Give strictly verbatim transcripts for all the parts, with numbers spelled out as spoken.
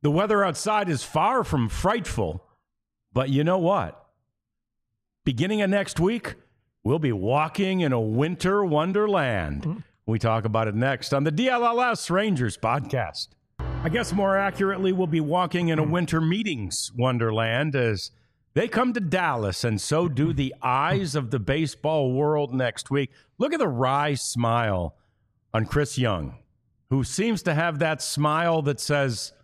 The weather outside is far from frightful, but you know what? Beginning of next week, we'll be walking in a winter wonderland. Mm-hmm. We talk about it next on the D L L S Rangers podcast. I guess more accurately, we'll be walking in a winter meetings wonderland as they come to Dallas, and so do the eyes of the baseball world next week. Look at the wry smile on Chris Young, who seems to have that smile that says,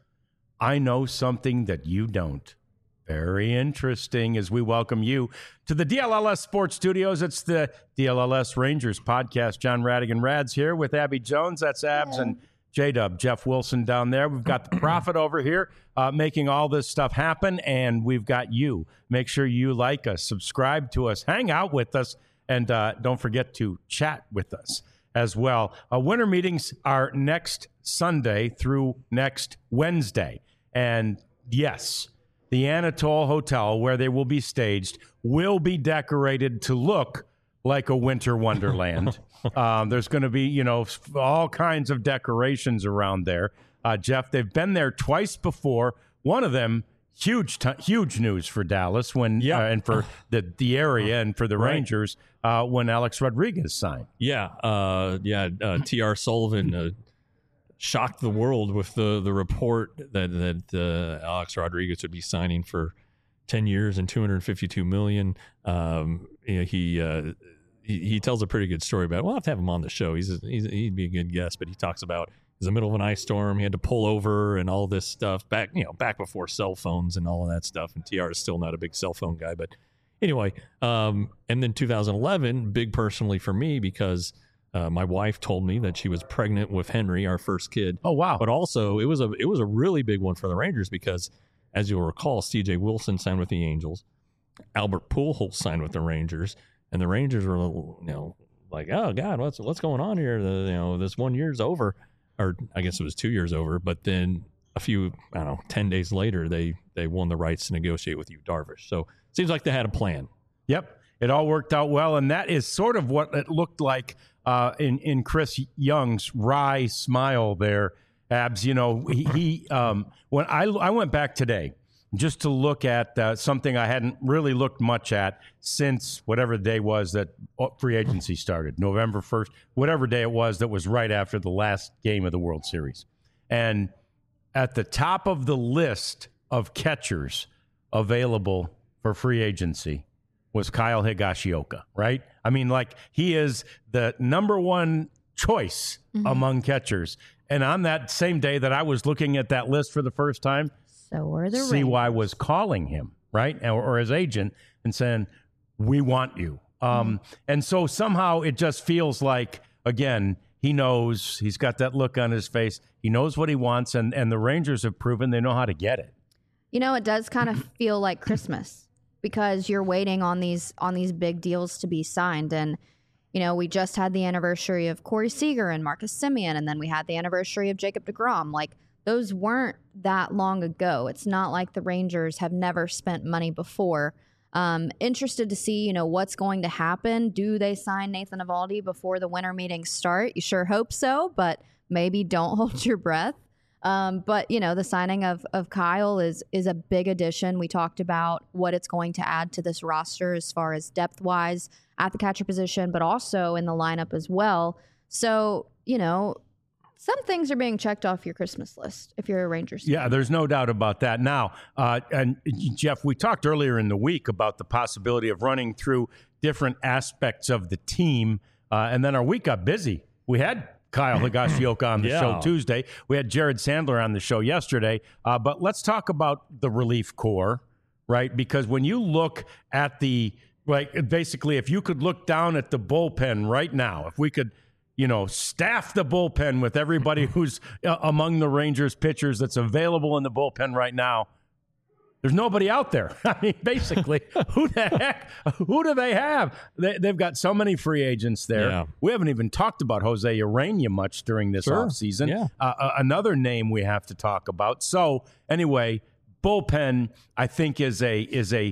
I know something that you don't. Very interesting as we welcome you to the D L L S Sports Studios. It's the D L L S Rangers podcast. John Radigan Rads here with Abby Jones. That's Abs yeah. and J-Dub, Jeff Wilson down there. We've got the Prophet over here uh, making all this stuff happen, and we've got you. Make sure you like us, subscribe to us, hang out with us, and uh, don't forget to chat with us as well. Uh, winter meetings are next Sunday through next Wednesday. And yes, the Anatole Hotel, where they will be staged, will be decorated to look like a winter wonderland. um, there's going to be, you know, all kinds of decorations around there. Uh, Jeff, they've been there twice before. One of them, huge, t- huge news for Dallas when yeah. uh, and for the, the area and for the right. Rangers uh, when Alex Rodriguez signed. Yeah, uh, yeah. Uh, T R Sullivan uh, shocked the world with the the report that that uh, Alex Rodriguez would be signing for ten years and two hundred fifty-two million dollars. Um, you know, he. Uh, He, he tells a pretty good story about it. We'll have to have him on the show. He's, a, he's he'd be a good guest, but he talks about it was the middle of an ice storm. He had to pull over and all this stuff back, you know, back before cell phones and all of that stuff. And T R is still not a big cell phone guy, but anyway. Um, and then two thousand eleven, big personally for me because uh, my wife told me that she was pregnant with Henry, our first kid. Oh wow! But also it was a it was a really big one for the Rangers because, as you'll recall, C J Wilson signed with the Angels, Albert Pujols signed with the Rangers. And the Rangers were, you know, like, oh God, what's what's going on here? The, you know, this one year's over, or I guess it was two years over. But then a few, I don't know, ten days later, they they won the rights to negotiate with Yu Darvish. So it seems like they had a plan. Yep, it all worked out well, and that is sort of what it looked like uh, in in Chris Young's wry smile there. Abs, you know, he, he um, when I I went back today. Just to look at uh, something I hadn't really looked much at since whatever the day was that free agency started, November first, whatever day it was that was right after the last game of the World Series. And at the top of the list of catchers available for free agency was Kyle Higashioka, right? I mean, like, he is the number one choice mm-hmm. among catchers. And on that same day that I was looking at that list for the first time, So were the C Y Rangers. was calling him, right, or, or his agent, and saying, we want you. Um, mm-hmm. And so somehow it just feels like, again, he knows, he's got that look on his face. He knows what he wants, and, and the Rangers have proven they know how to get it. You know, it does kind of feel like Christmas because you're waiting on these on these big deals to be signed. And, you know, we just had the anniversary of Corey Seager and Marcus Semien, and then we had the anniversary of Jacob deGrom. Like, those weren't that long ago. It's not like the Rangers have never spent money before. Um, interested to see, you know, what's going to happen. Do they sign Nathan Eovaldi before the winter meetings start? You sure hope so, but maybe don't hold your breath. Um, but, you know, the signing of of Kyle is is a big addition. We talked about what it's going to add to this roster as far as depth-wise at the catcher position, but also in the lineup as well. So, you know, some things are being checked off your Christmas list if you're a Rangers fan. Yeah, there's no doubt about that. Now, uh, and Jeff, we talked earlier in the week about the possibility of running through different aspects of the team, uh, and then our week got busy. We had Kyle Higashioka on the yeah. show Tuesday. We had Jared Sandler on the show yesterday. Uh, but let's talk about the relief corps, right? Because when you look at the, like, basically, if you could look down at the bullpen right now, if we could, you know, staff the bullpen with everybody who's uh, among the Rangers pitchers that's available in the bullpen right now, there's nobody out there. I mean, basically, who the heck, who do they have? They, they've got so many free agents there. Yeah. We haven't even talked about Jose Urena much during this sure. offseason. Yeah. Uh, uh, another name we have to talk about. So anyway, bullpen, I think, is a is a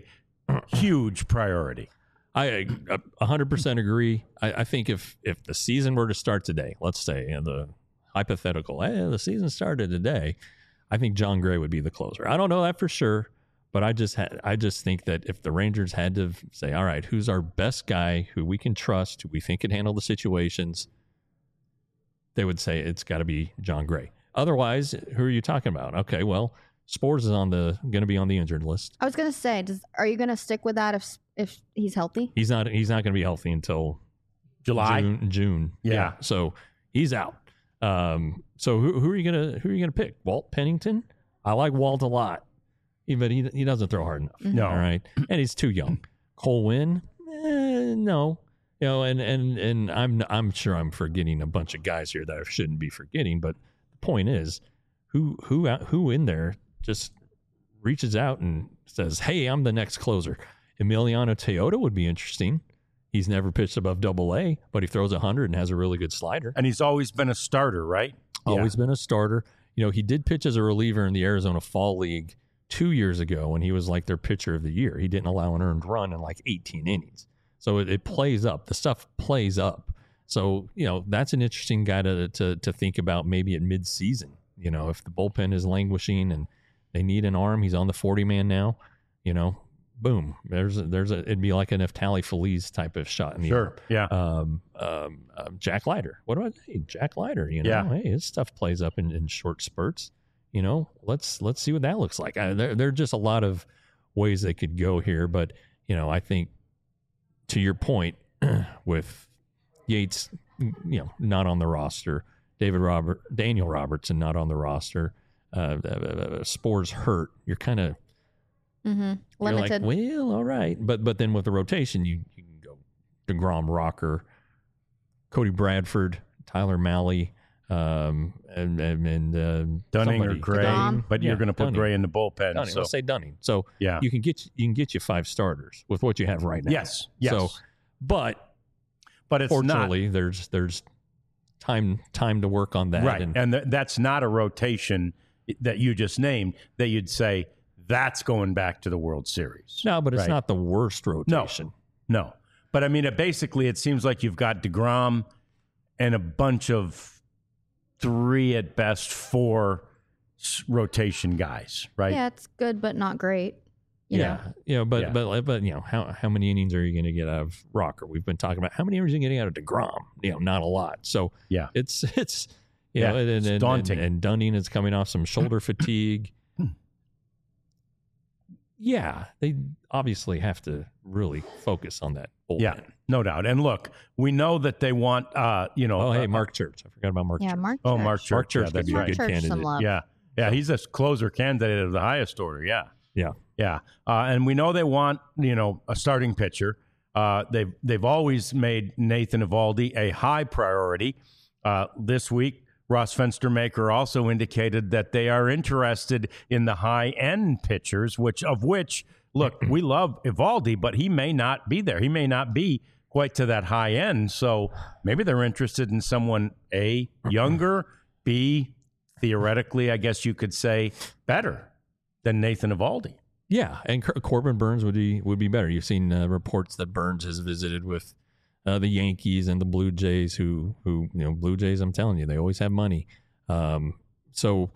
huge priority. I one hundred percent agree. I, I think if, if the season were to start today, let's say, in the hypothetical, hey, the season started today, I think John Gray would be the closer. I don't know that for sure, but I just had, I just think that if the Rangers had to say, all right, who's our best guy who we can trust, who we think can handle the situations, they would say it's got to be John Gray. Otherwise, who are you talking about? Okay, well, Spores is on the going to be on the injured list. I was going to say, does, are you going to stick with that if if he's healthy? He's not. He's not going to be healthy until July, June. June. Yeah. yeah. So he's out. Um, so who, who are you gonna who are you gonna pick? Walt Pennington? I like Walt a lot, but he he doesn't throw hard enough. Mm-hmm. No. All right, and he's too young. Cole Winn? Eh, no. You know, and and and I'm I'm sure I'm forgetting a bunch of guys here that I shouldn't be forgetting. But the point is, who who out, who in there just reaches out and says, "Hey, I'm the next closer." Emiliano Teodoro would be interesting. He's never pitched above double A, but he throws one hundred and has a really good slider. and he's always been a starter, right? Always Yeah. been a starter. You know, he did pitch as a reliever in the Arizona Fall League two years ago when he was like their pitcher of the year. He didn't allow an earned run in like eighteen innings. So it, it plays up. The stuff plays up. So, you know, that's an interesting guy to, to, to think about maybe at midseason. You know, if the bullpen is languishing and they need an arm, he's on the forty man now, you know, boom. There's a, there's a, it'd be like an Neftali Feliz type of shot in the Sure. Yeah. um, um, um, Jack Leiter. What about hey, Jack Leiter? You know, Yeah. hey, his stuff plays up in, in short spurts. You know, let's let's see what that looks like. I, there, there are just a lot of ways they could go here, but you know, I think to your point with Yates, you know, not on the roster, David Robert, Daniel Robertson not on the roster, uh, uh, uh, Spores hurt. You're kind of Mm-hmm. you're like, Limited. well, all right, but but then with the rotation, you, you can go DeGrom, Rocker, Cody Bradford, Tyler Malley, um, and and, and uh, Dunning somebody. or Gray, DeGrom. but Yeah, you're going to put Dunning. Gray in the bullpen. Dunning, So let's say Dunning. So yeah. you can get you can get you five starters with what you have right now. Yes. Yes. So, but but it's fortunately, there's there's time time to work on that. not right, And, and th- that's not a rotation that you just named that you'd say that's going back to the World Series. no, but it's Right. not the worst rotation. No, but I mean, it basically, it seems like you've got DeGrom and a bunch of three at best four s- rotation guys, right? Yeah, it's good, but not great. You yeah, know? you know, but Yeah. but but you know, how how many innings are you going to get out of Rocker? We've been talking about how many innings are you getting out of DeGrom? You know, not a lot. So Yeah. it's it's you Yeah, know, and, it's and, daunting. And, and Dunning is coming off some shoulder fatigue. Yeah, they obviously have to really focus on that bullpen. Yeah, no doubt. And look, we know that they want, uh, you know. Oh, hey, uh, Mark Church. I forgot about Mark Yeah, Church. Mark. Oh, Church. Mark Church. Mark Church Yeah, could that's be a Mark good Church, candidate. some love. Yeah. Yeah, he's a closer candidate of the highest order. Yeah. Yeah. Yeah. Uh, and we know they want, you know, a starting pitcher. Uh, they've, they've always made Nathan Eovaldi a high priority. Uh, this week, Ross Fenstermaker also indicated that they are interested in the high-end pitchers, which of which, look, we love Eovaldi, but he may not be there. He may not be quite to that high end. So maybe they're interested in someone, A, younger, B, theoretically, I guess you could say, better than Nathan Eovaldi. Yeah, and Cor- Corbin Burns would be would be better. You've seen uh, reports that Burns has visited with uh, the Yankees and the Blue Jays, who who you know Blue Jays. I'm telling you, they always have money. Um, so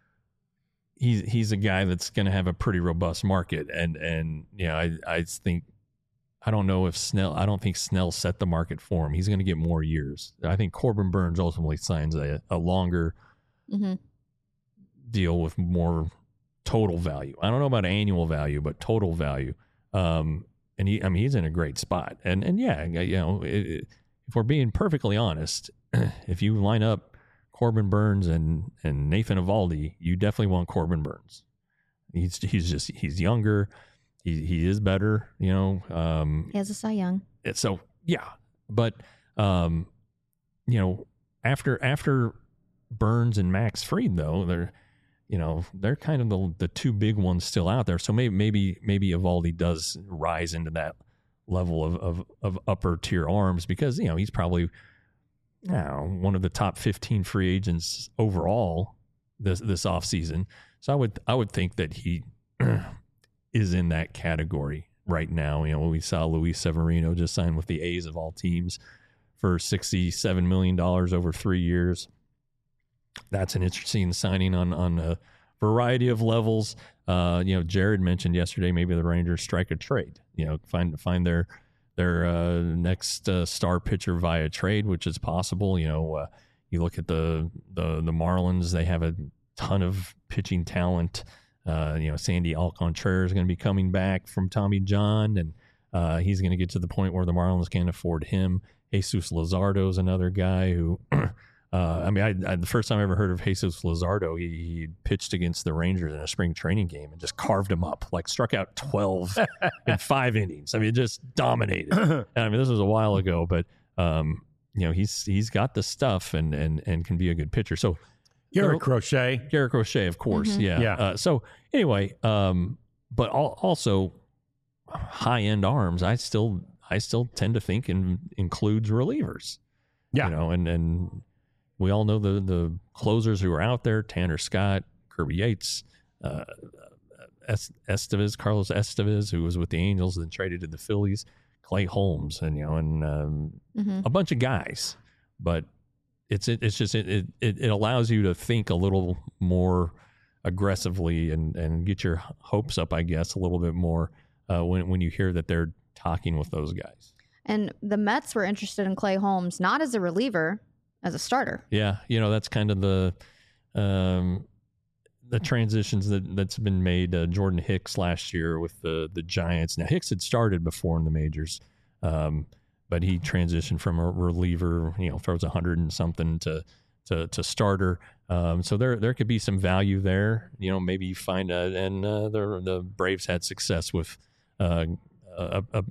he's he's a guy that's going to have a pretty robust market, and and you know I I think I don't know if Snell. I don't think Snell set the market for him. He's going to get more years. I think Corbin Burns ultimately signs a, a longer Mm-hmm. deal with more total value. I don't know about annual value, but total value. Um, and he, I mean, he's in a great spot. And and yeah, you know, it, it, if we're being perfectly honest, if you line up Corbin Burns and and Nathan Eovaldi, you definitely want Corbin Burns. He's he's just he's younger. He he is better. You know. Um, He has a Cy Young. so yeah, but um, you know, after after Burns and Max Fried, though, they're you know they're kind of the the two big ones still out there. So maybe maybe maybe Eovaldi does rise into that level of of, of upper tier arms because you know he's probably you know, one of the top fifteen free agents overall this this offseason. So I would I would think that he is in that category right now. You know, we saw Luis Severino just sign with the A's of all teams for sixty-seven million dollars over three years. That's an interesting signing on on a variety of levels. Uh, you know, Jared mentioned yesterday maybe the Rangers strike a trade. You know, find find their their uh, next uh, star pitcher via trade, which is possible. You know, uh, you look at the the the Marlins; they have a ton of pitching talent. Uh, you know, Sandy Alcantara is going to be coming back from Tommy John, and uh, he's going to get to the point where the Marlins can't afford him. Jesus Luzardo is another guy who. Uh, I mean, I, I, the first time I ever heard of Jesus Luzardo, he, he pitched against the Rangers in a spring training game and just carved him up, like struck out twelve in five innings. I mean, just dominated. And I mean, this was a while ago, but um, you know, he's he's got the stuff and and and can be a good pitcher. So Garrett Crochet, Garrett Crochet, of course, Mm-hmm. yeah. Yeah. Uh, so anyway, um, but al- also high end arms. I still I still tend to think in, includes relievers. Yeah. You know, and and. We all know the the closers who are out there: Tanner Scott, Kirby Yates, uh, Estevez, Carlos Estevez, who was with the Angels and then traded to the Phillies, Clay Holmes, and you know, and um, Mm-hmm. a bunch of guys. But it's it, it's just it, it it allows you to think a little more aggressively and and get your hopes up, I guess, a little bit more uh, when when you hear that they're talking with those guys. And the Mets were interested in Clay Holmes, not as a reliever, as a starter. Yeah, you know, that's kind of the um, the transitions that that's been made. Uh, Jordan Hicks last year with the the Giants. Now Hicks had started before in the majors, um, but he transitioned from a reliever, you know, throws a hundred and something to to to starter. Um, so there there could be some value there. You know, maybe you find a, and uh, the the Braves had success with uh, a, a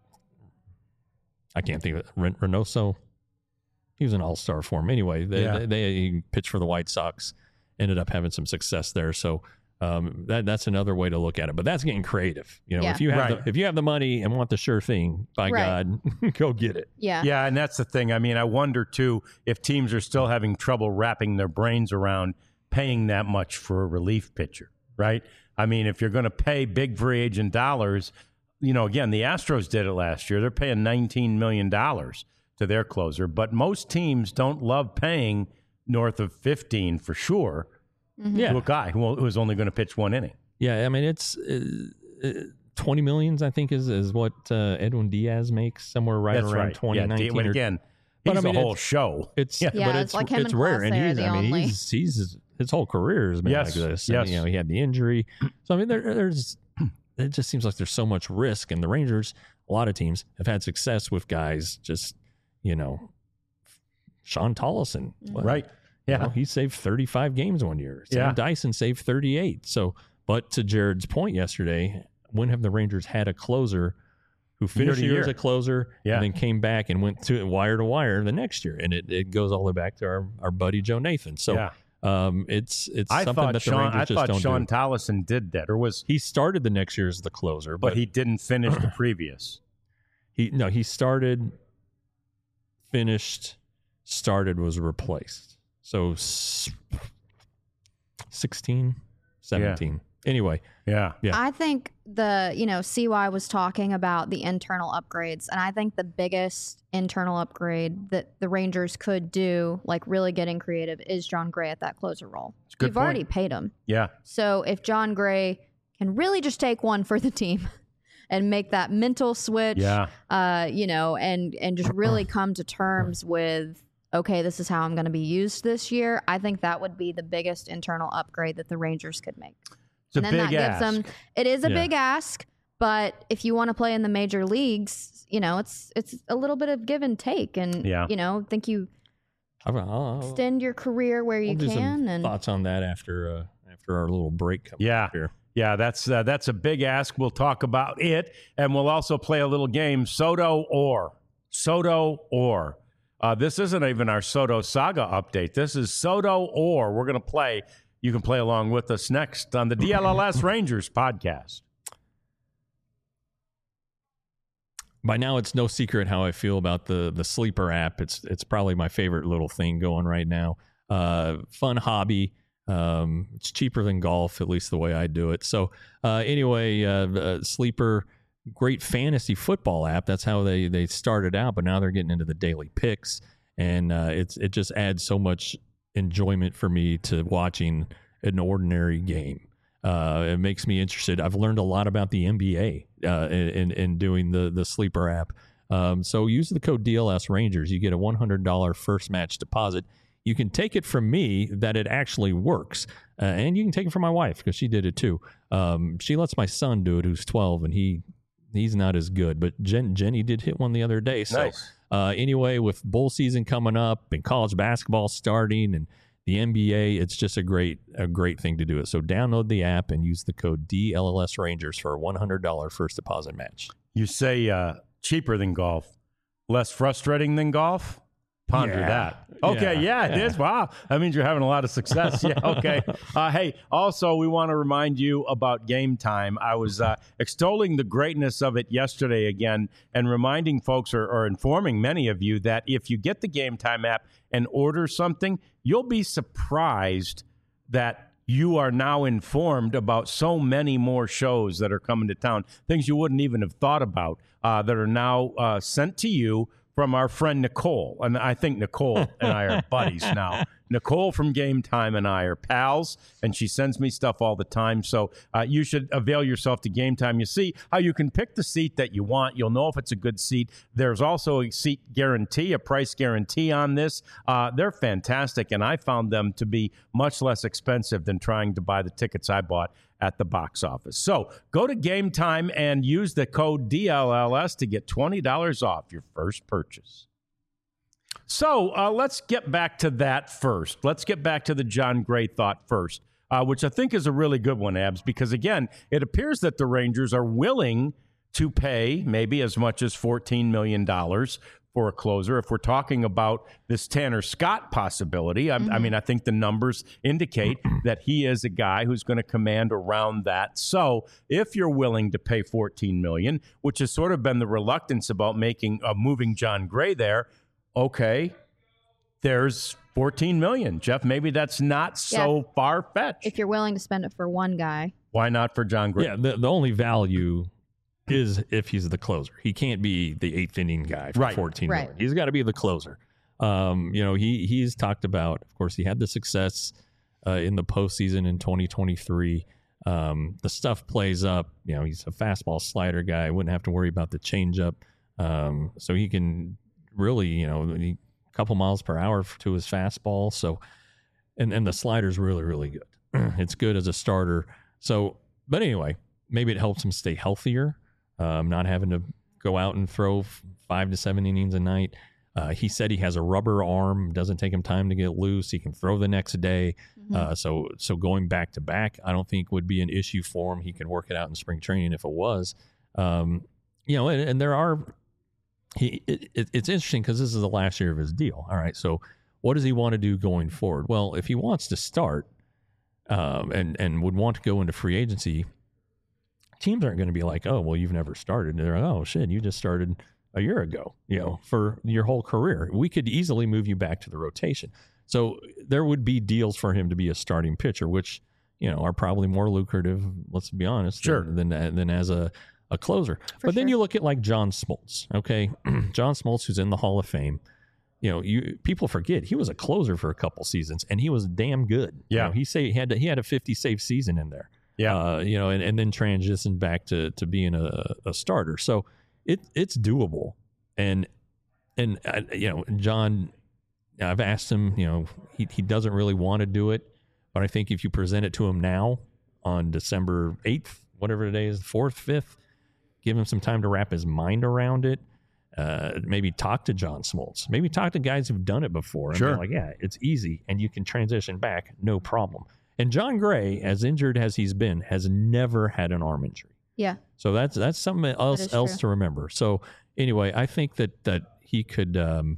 I can't think of it. Ren- Reynoso. He was an all-star for him. Anyway, they, Yeah. they, they he pitched for the White Sox, ended up having some success there. So um, that that's another way to look at it. But that's getting creative. You know, Yeah. if you have Right. the, if you have the money and want the sure thing, by Right. God, go get it. Yeah. Yeah, and that's the thing. I mean, I wonder too if teams are still having trouble wrapping their brains around paying that much for a relief pitcher, right? I mean, if you're going to pay big free agent dollars, you know, again, the Astros did it last year. They're paying nineteen million dollars to their closer, but most teams don't love paying north of fifteen for sure Mm-hmm. Yeah, to a guy who who is only going to pitch one inning. yeah. I mean, it's uh, uh, twenty millions. I think is is what uh, Edwin Diaz makes, somewhere right That's around right. twenty Yeah, nineteen. but or- again, But, he's I mean, a whole it's- show. It's Yeah. Yeah, but it's it's like him it's and rare, and Clase are he's the I mean only- he's he's his whole career has been Yes, like this. And, yes. you know, he had the injury, so I mean there, there's it just seems like there's so much risk, and the Rangers, a lot of teams have had success with guys just you know, Sean Tollison, Well, Right. you Yeah. know, he saved thirty-five games one year. Sam Yeah. Dyson saved thirty-eight. So, but to Jared's point yesterday, when have the Rangers had a closer who finished to the year year. as a closer Yeah. and then came back and went to wire to wire the next year? And it, it goes all the way back to our, our buddy Joe Nathan. So Yeah. um, it's it's I something thought that the Sean. Rangers I just thought don't Sean do. Tollison did that, or was, He started the next year as the closer, but but, he didn't finish the previous. he no he started, finished, started, was replaced. So s- sixteen, seventeen. Anyway, Yeah. Yeah. I think the, you know, C Y was talking about the internal upgrades, and I think the biggest internal upgrade that the Rangers could do, like really getting creative, is John Gray at that closer role. a good You've point. already paid him. Yeah. So if John Gray can really just take one for the team and make that mental switch, Yeah. uh, you know, and and just really come to terms with, okay, this is how I'm going to be used this year, I think that would be the biggest internal upgrade that the Rangers could make. It's a and then big that ask. gives them, it is a Yeah. big ask, but if you want to play in the major leagues, you know, it's it's a little bit of give and take, and Yeah. you know, think you I'll, I'll, extend your career where you I'll do some can, and thoughts on that after uh, after our little break comes Yeah. up here. Yeah, that's uh, that's a big ask. We'll talk about it, and we'll also play a little game, Soto or Soto or. Uh, this isn't even our Soto Saga update. This is Soto or. We're going to play. You can play along with us next on the D L L S Rangers podcast. By now, it's no secret how I feel about the the Sleeper app. It's it's probably my favorite little thing going right now. Uh, fun hobby. Um, it's cheaper than golf, at least the way I do it. So uh, anyway, uh, uh, Sleeper, great fantasy football app. That's how they they started out, but now they're getting into the daily picks, and uh, it's it just adds so much enjoyment for me to watching an ordinary game. Uh, it makes me interested. I've learned a lot about the N B A uh, in, in doing the, the Sleeper app. Um, so use the code D L S Rangers. You get a one hundred dollars first match deposit. You can take it from me that it actually works. Uh, and you can take it from my wife because she did it too. Um, she lets my son do it, who's twelve, and he he's not as good. But Jen, Jenny did hit one the other day. So Nice. uh, anyway, with bowl season coming up and college basketball starting and the N B A, it's just a great a great thing to do it. So download the app and use the code D L L S Rangers for a one hundred dollars first deposit match. You say uh, cheaper than golf, less frustrating than golf? Ponder Yeah. that. Okay, yeah, Yeah, it yeah. is. Wow. That means you're having a lot of success. Yeah, okay. Uh, hey, also, we want to remind you about Game Time. I was uh, extolling the greatness of it yesterday again and reminding folks or, or informing many of you that if you get the Game Time app and order something, you'll be surprised that you are now informed about so many more shows that are coming to town, things you wouldn't even have thought about uh, that are now uh, sent to you from our friend Nicole. And I think Nicole and I are buddies now. Nicole from Game Time and I are pals, and she sends me stuff all the time. So uh, you should avail yourself to Game Time. You see how you can pick the seat that you want. You'll know if it's a good seat. There's also a seat guarantee, a price guarantee on this. Uh, they're fantastic, and I found them to be much less expensive than trying to buy the tickets I bought at the box office. So go to Game Time and use the code D L L S to get twenty dollars off your first purchase. So uh, let's get back to that first. Let's get back to the Jon Gray thought first, uh, which I think is a really good one, Abs, because, again, it appears that the Rangers are willing to pay maybe as much as fourteen million dollars for a closer. If we're talking about this Tanner Scott possibility, I, mm-hmm. I mean, I think the numbers indicate that he is a guy who's going to command around that. So if you're willing to pay fourteen million dollars, which has sort of been the reluctance about making uh, moving Jon Gray there, okay, there's fourteen million dollars. Jeff, maybe that's not so yeah. far-fetched. If you're willing to spend it for one guy. Why not for Jon Gray? Yeah, the, the only value is if he's the closer. He can't be the eighth inning guy for right. fourteen right. million. He's got to be the closer. Um, you know, he he's talked about, of course, he had the success uh, in the postseason in twenty twenty-three. Um, the stuff plays up. You know, he's a fastball slider guy. Wouldn't have to worry about the changeup. Um, so he can really, you know, a couple miles per hour to his fastball. So, and and the slider's really, really good. It's good as a starter. So, but anyway, maybe it helps him stay healthier. Um, not having to go out and throw f- five to seven innings a night. Uh, he said he has a rubber arm, doesn't take him time to get loose. He can throw the next day. Mm-hmm. Uh, so so going back to back, I don't think would be an issue for him. He can work it out in spring training if it was. Um, you know, and, and there are, he. It, it, it's interesting because this is the last year of his deal. All right, so what does he want to do going forward? Well, if he wants to start um, and, and would want to go into free agency, teams aren't going to be like, oh, well, you've never started. They're like, oh, shit, you just started a year ago, you know, for your whole career. We could easily move you back to the rotation. So there would be deals for him to be a starting pitcher, which, you know, are probably more lucrative, let's be honest, sure. than, than, than as a, a closer. For but then sure. you look at like John Smoltz, okay? John Smoltz, who's in the Hall of Fame. You know, you people forget he was a closer for a couple seasons, and he was damn good. Yeah. You know, he say he had, he had a fifty save season in there. Yeah, uh, you know, and, and then transition back to to being a, a starter. So it it's doable, and and uh, you know, John, I've asked him. You know, he he doesn't really want to do it, but I think if you present it to him now on December eighth, whatever the day is, fourth, fifth, give him some time to wrap his mind around it. Uh, maybe talk to John Smoltz. Maybe talk to guys who've done it before. And sure. they're like, yeah, it's easy, and you can transition back, no problem. And Jon Gray, as injured as he's been, has never had an arm injury. Yeah. So that's that's something else else to remember. So anyway, I think that that he could um,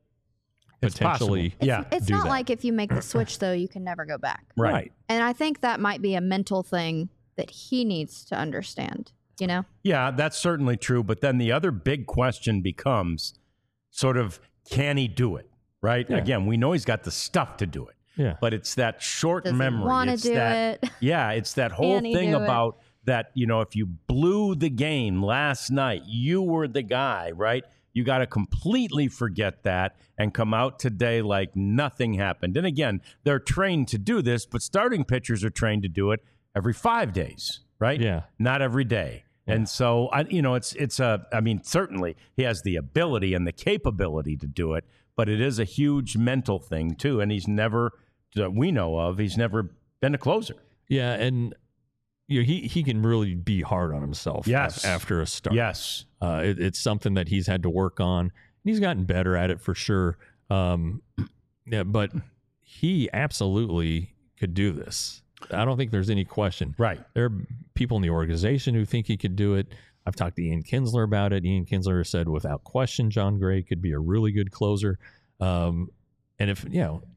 potentially, it's, yeah, it's do not that. like if you make the switch though, you can never go back. Right. right. And I think that might be a mental thing that he needs to understand. You know? Yeah, that's certainly true. But then the other big question becomes sort of, can he do it? Right? Yeah. Again, we know he's got the stuff to do it. Yeah. But it's that short Does memory. he want to it's do that, it? Yeah, it's that whole Can he thing do it? about that, you know, if you blew the game last night, you were the guy, right? You got to completely forget that and come out today like nothing happened. And again, they're trained to do this, but starting pitchers are trained to do it every five days, right? Yeah. Not every day. Yeah. And so, I, you know, it's, it's a, I mean, certainly he has the ability and the capability to do it, but it is a huge mental thing too. And he's never, that we know of, he's never been a closer. Yeah. And, you know, he, he can really be hard on himself yes. after a start. Yes. Uh, it, it's something that he's had to work on. And he's gotten better at it for sure. Um, yeah, but he absolutely could do this. I don't think there's any question. Right. There are people in the organization who think he could do it. I've talked to Ian Kinsler about it. Ian Kinsler said without question Jon Gray could be a really good closer. Um, and if, you know,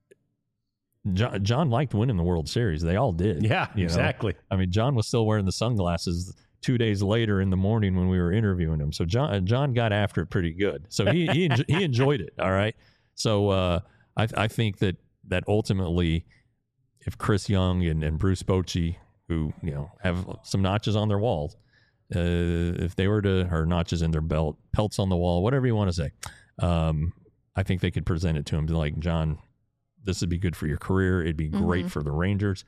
John, John liked winning the World Series. They all did. Yeah, you know? exactly. I mean, John was still wearing the sunglasses two days later in the morning when we were interviewing him. So John John got after it pretty good. So he he, enjo- he enjoyed it. All right. So uh, I I think that that ultimately, if Chris Young and, and Bruce Bochy, who you know have some notches on their walls, uh, if they were to or notches in their belt, pelts on the wall, whatever you want to say, um, I think they could present it to him like, John, this would be good for your career. It'd be great mm-hmm. for the Rangers.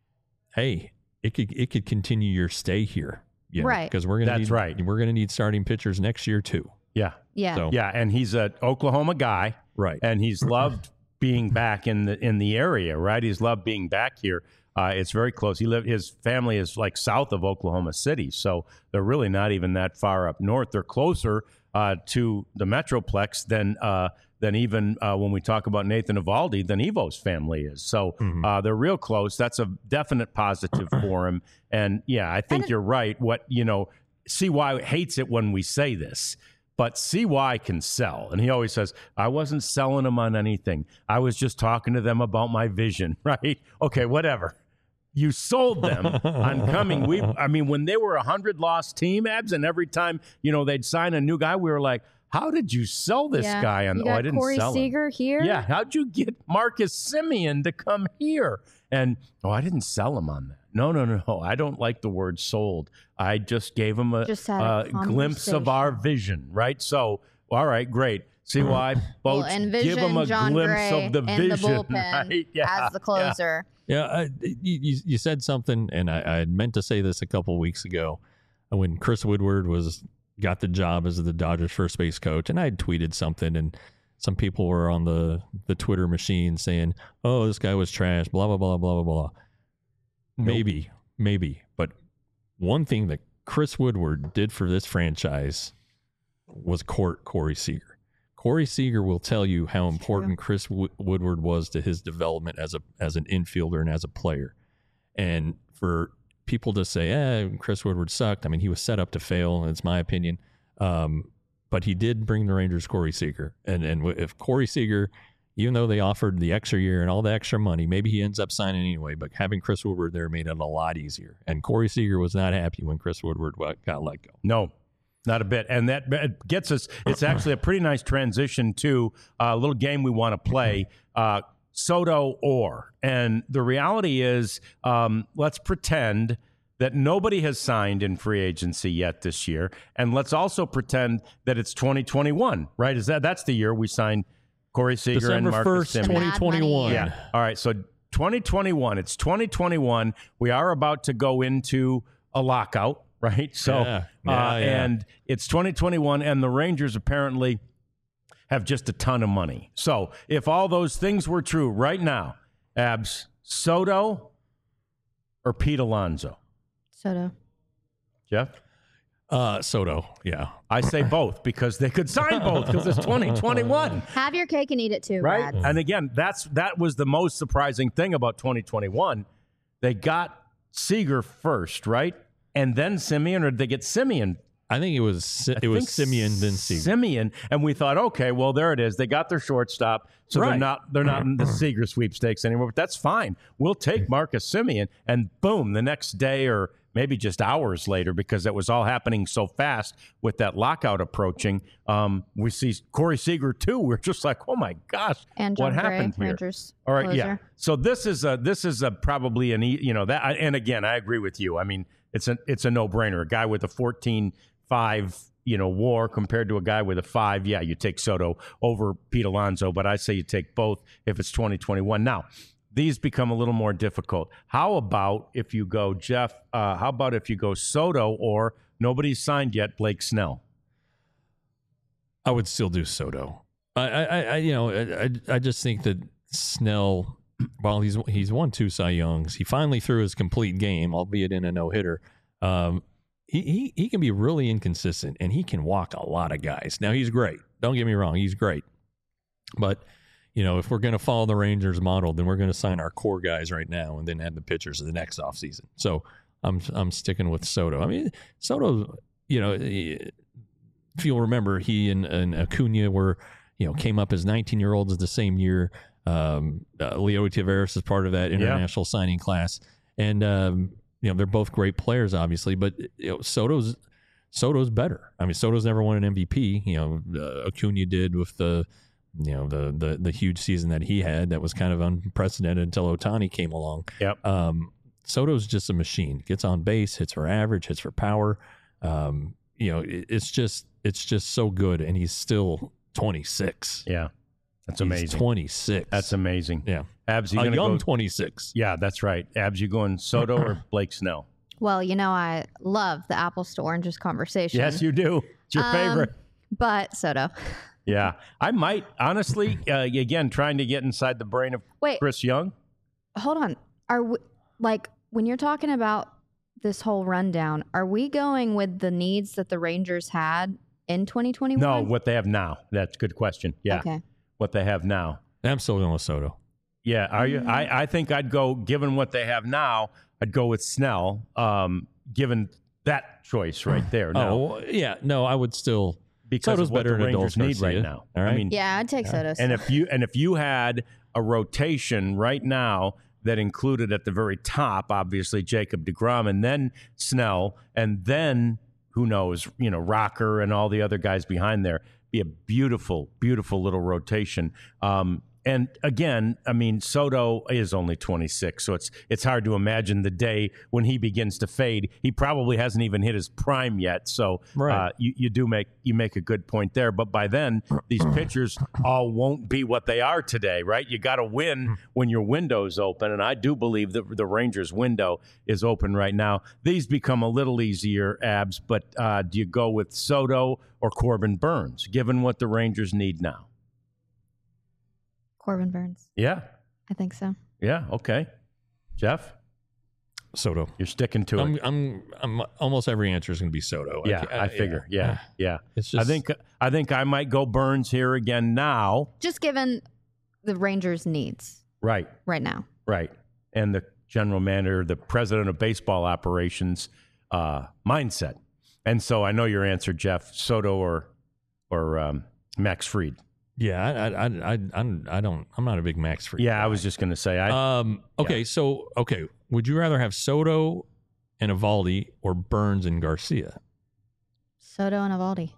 Hey, it could it could continue your stay here, you know, right? Because we're gonna that's need, right. We're gonna need starting pitchers next year too. Yeah, yeah, so, yeah. And he's an Oklahoma guy, right? And he's loved being back in the in the area, right? He's loved being back here. Uh, it's very close. He lived. His family is like south of Oklahoma City, so they're really not even that far up north. They're closer uh, to the Metroplex than. Uh, than even uh, when we talk about Nathan Eovaldi, than Evo's family is. So mm-hmm. uh, they're real close. That's a definite positive for him. And, yeah, I think you're right. What, you know, C Y hates it when we say this, but C Y can sell. And he always says, I wasn't selling them on anything. I was just talking to them about my vision, right? Okay, whatever. You sold them on coming. We, I mean, when they were a hundred-loss team, Abs, and every time, you know, they'd sign a new guy, we were like, how did you sell this yeah. guy? On you the, got oh, I didn't Corey sell Seager him. here. Yeah, how'd you get Marcus Semien to come here? And oh, I didn't sell him on that. No, no, no. I don't like the word sold. I just gave him a, just had a, a glimpse of our vision, right? So, all right, great. See why? Well, envision give him a John glimpse Gray of the in vision, the bullpen right? yeah, as the closer. Yeah, yeah I, you, you said something, and I, I had meant to say this a couple weeks ago when Chris Woodward was got the job as the Dodgers first base coach, and I had tweeted something, and some people were on the, the Twitter machine saying, oh, this guy was trash, blah, blah, blah, blah, blah, blah. Nope. Maybe, maybe. But one thing that Chris Woodward did for this franchise was court Corey Seager. Corey Seager will tell you how That's important true. Chris w- Woodward was to his development as a as an infielder and as a player. And for people to say, eh, Chris Woodward sucked. I mean, he was set up to fail. It's my opinion. Um, but he did bring the Rangers Corey Seager. And and if Corey Seager, even though they offered the extra year and all the extra money, maybe he ends up signing anyway, but having Chris Woodward there made it a lot easier. And Corey Seager was not happy when Chris Woodward got let go. No, not a bit. And that gets us, it's actually a pretty nice transition to a little game we want to play. Uh, Soto or. And the reality is, um, let's pretend that nobody has signed in free agency yet this year. And let's also pretend that it's twenty twenty-one, right? Is that that's the year we signed Corey Seager December and Marcus first, Semien. twenty twenty-one. Yeah. All right. So twenty twenty-one. It's twenty twenty-one. We are about to go into a lockout, right? So, yeah. Yeah, uh, yeah. and it's twenty twenty-one, and the Rangers apparently have just a ton of money. So if all those things were true right now, Abs, Soto or Pete Alonso? Soto. Jeff? Uh, Soto, yeah. I say both because they could sign both because it's twenty twenty-one. Have your cake and eat it too, right? Brad. And again, that's that was the most surprising thing about twenty twenty-one. They got Seager first, right? And then Semien, or did they get Semien? I think it was it I was Semien then Seager. Semien, and we thought, okay, well, there it is. They got their shortstop, so Right. they're not they're not in the Seager sweepstakes anymore. But that's fine. We'll take Marcus Semien, and boom, the next day or maybe just hours later, because it was all happening so fast with that lockout approaching. Um, we see Corey Seager too. We're just like, oh my gosh, And what John Gray, happened here? Rangers All right, closer. yeah. So this is a this is a probably an e- you know that, and again, I agree with you. I mean, it's a it's a no brainer. A guy with a fourteen five you know, WAR compared to a guy with a five, yeah, you take Soto over Pete Alonso, but I say you take both if it's twenty twenty-one. Now, these become a little more difficult. How about if you go, Jeff, uh, how about if you go Soto or nobody's signed yet, Blake Snell? I would still do Soto. I, I, I you know, I, I just think that Snell, while he's he's won two Cy Youngs, he finally threw his complete game, albeit in a no hitter. Um, he, he he can be really inconsistent, and he can walk a lot of guys. Now he's great. Don't get me wrong, he's great. But you know, if we're going to follow the Rangers model, then we're going to sign our core guys right now, and then add the pitchers the next offseason. So I'm I'm sticking with Soto. I mean, Soto, you know, if you'll remember, he and, and Acuna were, you know, came up as nineteen-year-olds the same year. Um, uh, Leo Taveras is part of that international yeah. signing class, and um, you know, they're both great players, obviously. But you know, Soto's Soto's better. I mean, Soto's never won an M V P. You know, uh, Acuna did with the. You know, the, the the huge season that he had that was kind of unprecedented until Ohtani came along. Yep. Um, Soto's just a machine. Gets on base, hits for average, hits for power. Um, you know, it, it's just it's just so good, and he's still twenty-six. Yeah, that's he's amazing. twenty-six. That's amazing. Yeah, Abs, you a gonna young go, twenty-six. Yeah, that's right. Abs, you going Soto or Blake Snell? Well, you know, I love the apples to oranges conversation. Yes, you do. It's your um, favorite. But Soto. Yeah, I might honestly. Uh, again, trying to get inside the brain of Wait, Chris Young. Hold on. Are we, like when you're talking about this whole rundown? Are we going with the needs that the Rangers had in twenty twenty-one? No, what they have now. That's a good question. Yeah, okay. What they have now. I'm still going with Soto. Yeah, are you? I, I think I'd go. Given what they have now, I'd go with Snell. Um, given that choice right there. No. Oh yeah, no, I would still. Because Soto's of what better the than Rangers Adolis need Garcia. right now. All right. I mean, yeah, I'd take Soto. And if you and if you had a rotation right now that included at the very top, obviously Jacob deGrom, and then Snell, and then who knows, you know, Rocker and all the other guys behind there, be a beautiful, beautiful little rotation. Um, And again, I mean, Soto is only twenty-six, so it's it's hard to imagine the day when he begins to fade. He probably hasn't even hit his prime yet. So right. uh, you, you do make you make a good point there. But by then, these pitchers all won't be what they are today, right? You got to win when your window's open, and I do believe that the Rangers' window is open right now. These become a little easier, Abs, but uh, do you go with Soto or Corbin Burns, given what the Rangers need now? Corbin Burns. Yeah. I think so. Yeah. Okay. Jeff? Soto. You're sticking to I'm, it. I'm, I'm, almost every answer is going to be Soto. Yeah, I, I, I figure. Yeah. Yeah. yeah. It's just, I think I think I might go Burns here again now. Just given the Rangers' needs. Right. Right now. Right. And the general manager, the president of baseball operations uh, mindset. And so I know your answer, Jeff. Soto or or um, Max Fried. Yeah, I, I, I, I, I don't. I'm not a big Max Fried. Yeah, guy. I was just going to say. I, um. Okay. yeah. So, okay. Would you rather have Soto and Eovaldi or Burns and Garcia? Soto and Eovaldi.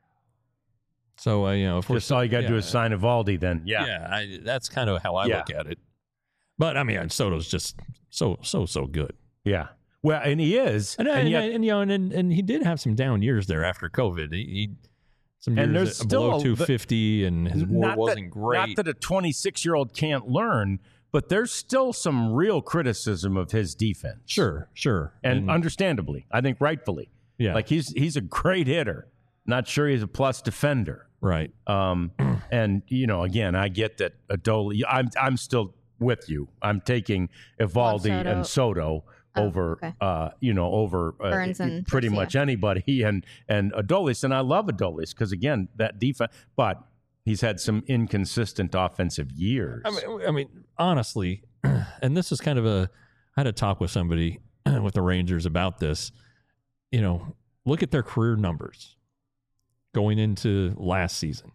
So, uh, you know, if just we're all you got to yeah, do is sign Eovaldi, then. Yeah. Yeah. I, that's kind of how I Yeah. look at it. But I mean, Soto's just so, so, so good. Yeah. Well, and he is, and, and, and, yet, and, and you know, and, and and he did have some down years there after COVID. He. he Some and years there's at- still below a- two fifty, and his WAR not wasn't that, great. Not that a twenty-six-year-old can't learn, but there's still some real criticism of his defense. Sure, sure, and, understandably, I think rightfully. yeah, Like he's he's a great hitter. Not sure he's a plus defender. right. Um, and you know, again, I get that Adolis. I'm I'm still with you. I'm taking Eovaldi Soto. and Soto Oh, over, okay. uh, you know, over uh, Burns and pretty Garcia. much anybody, and and Adolis, and I love Adolis because again, that defense, but he's had some inconsistent offensive years. I mean, I mean, honestly, and this is kind of a. I had a talk with somebody with the Rangers about this. You know, look at their career numbers going into last season.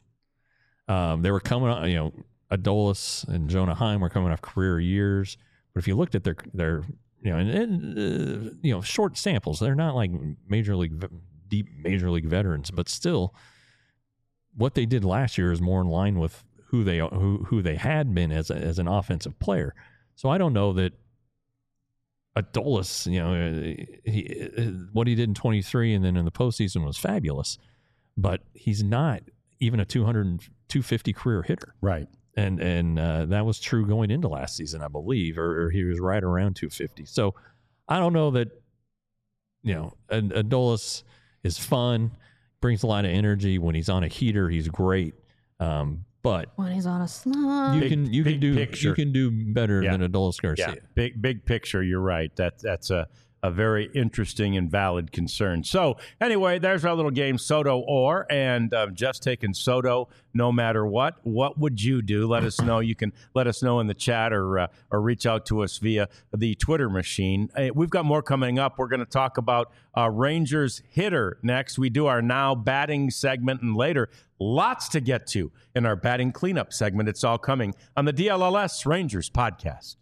Um, they were coming on. You know, Adolis and Jonah Heim were coming off career years, but if you looked at their their You know, and, and uh, you know, short samples. They're not like major league, deep major league veterans, but still, what they did last year is more in line with who they who who they had been as a, as an offensive player. So I don't know that Adolis, you know, he, what he did in twenty-three and then in the postseason was fabulous. but he's not even a two hundred, two fifty career hitter. Right. And and uh, that was true going into last season, I believe, or, or he was right around two fifty. So I don't know that, you know, Adolis is fun, brings a lot of energy. When he's on a heater, he's great. Um, but When he's on a slump. you Big- can you big can do picture. you can do better Yeah. than Adolis Garcia. Yeah, big big picture. You're right. That that's a a very interesting and valid concern. So anyway, there's our little game, Soto or, and uh, just taking Soto no matter what. What would you do? Let us know. You can let us know in the chat or uh, or reach out to us via the Twitter machine. Uh, we've got more coming up. We're going to talk about uh, Rangers hitter next. We do our now batting segment, and later lots to get to in our batting cleanup segment. It's all coming on the D L L S Rangers podcast.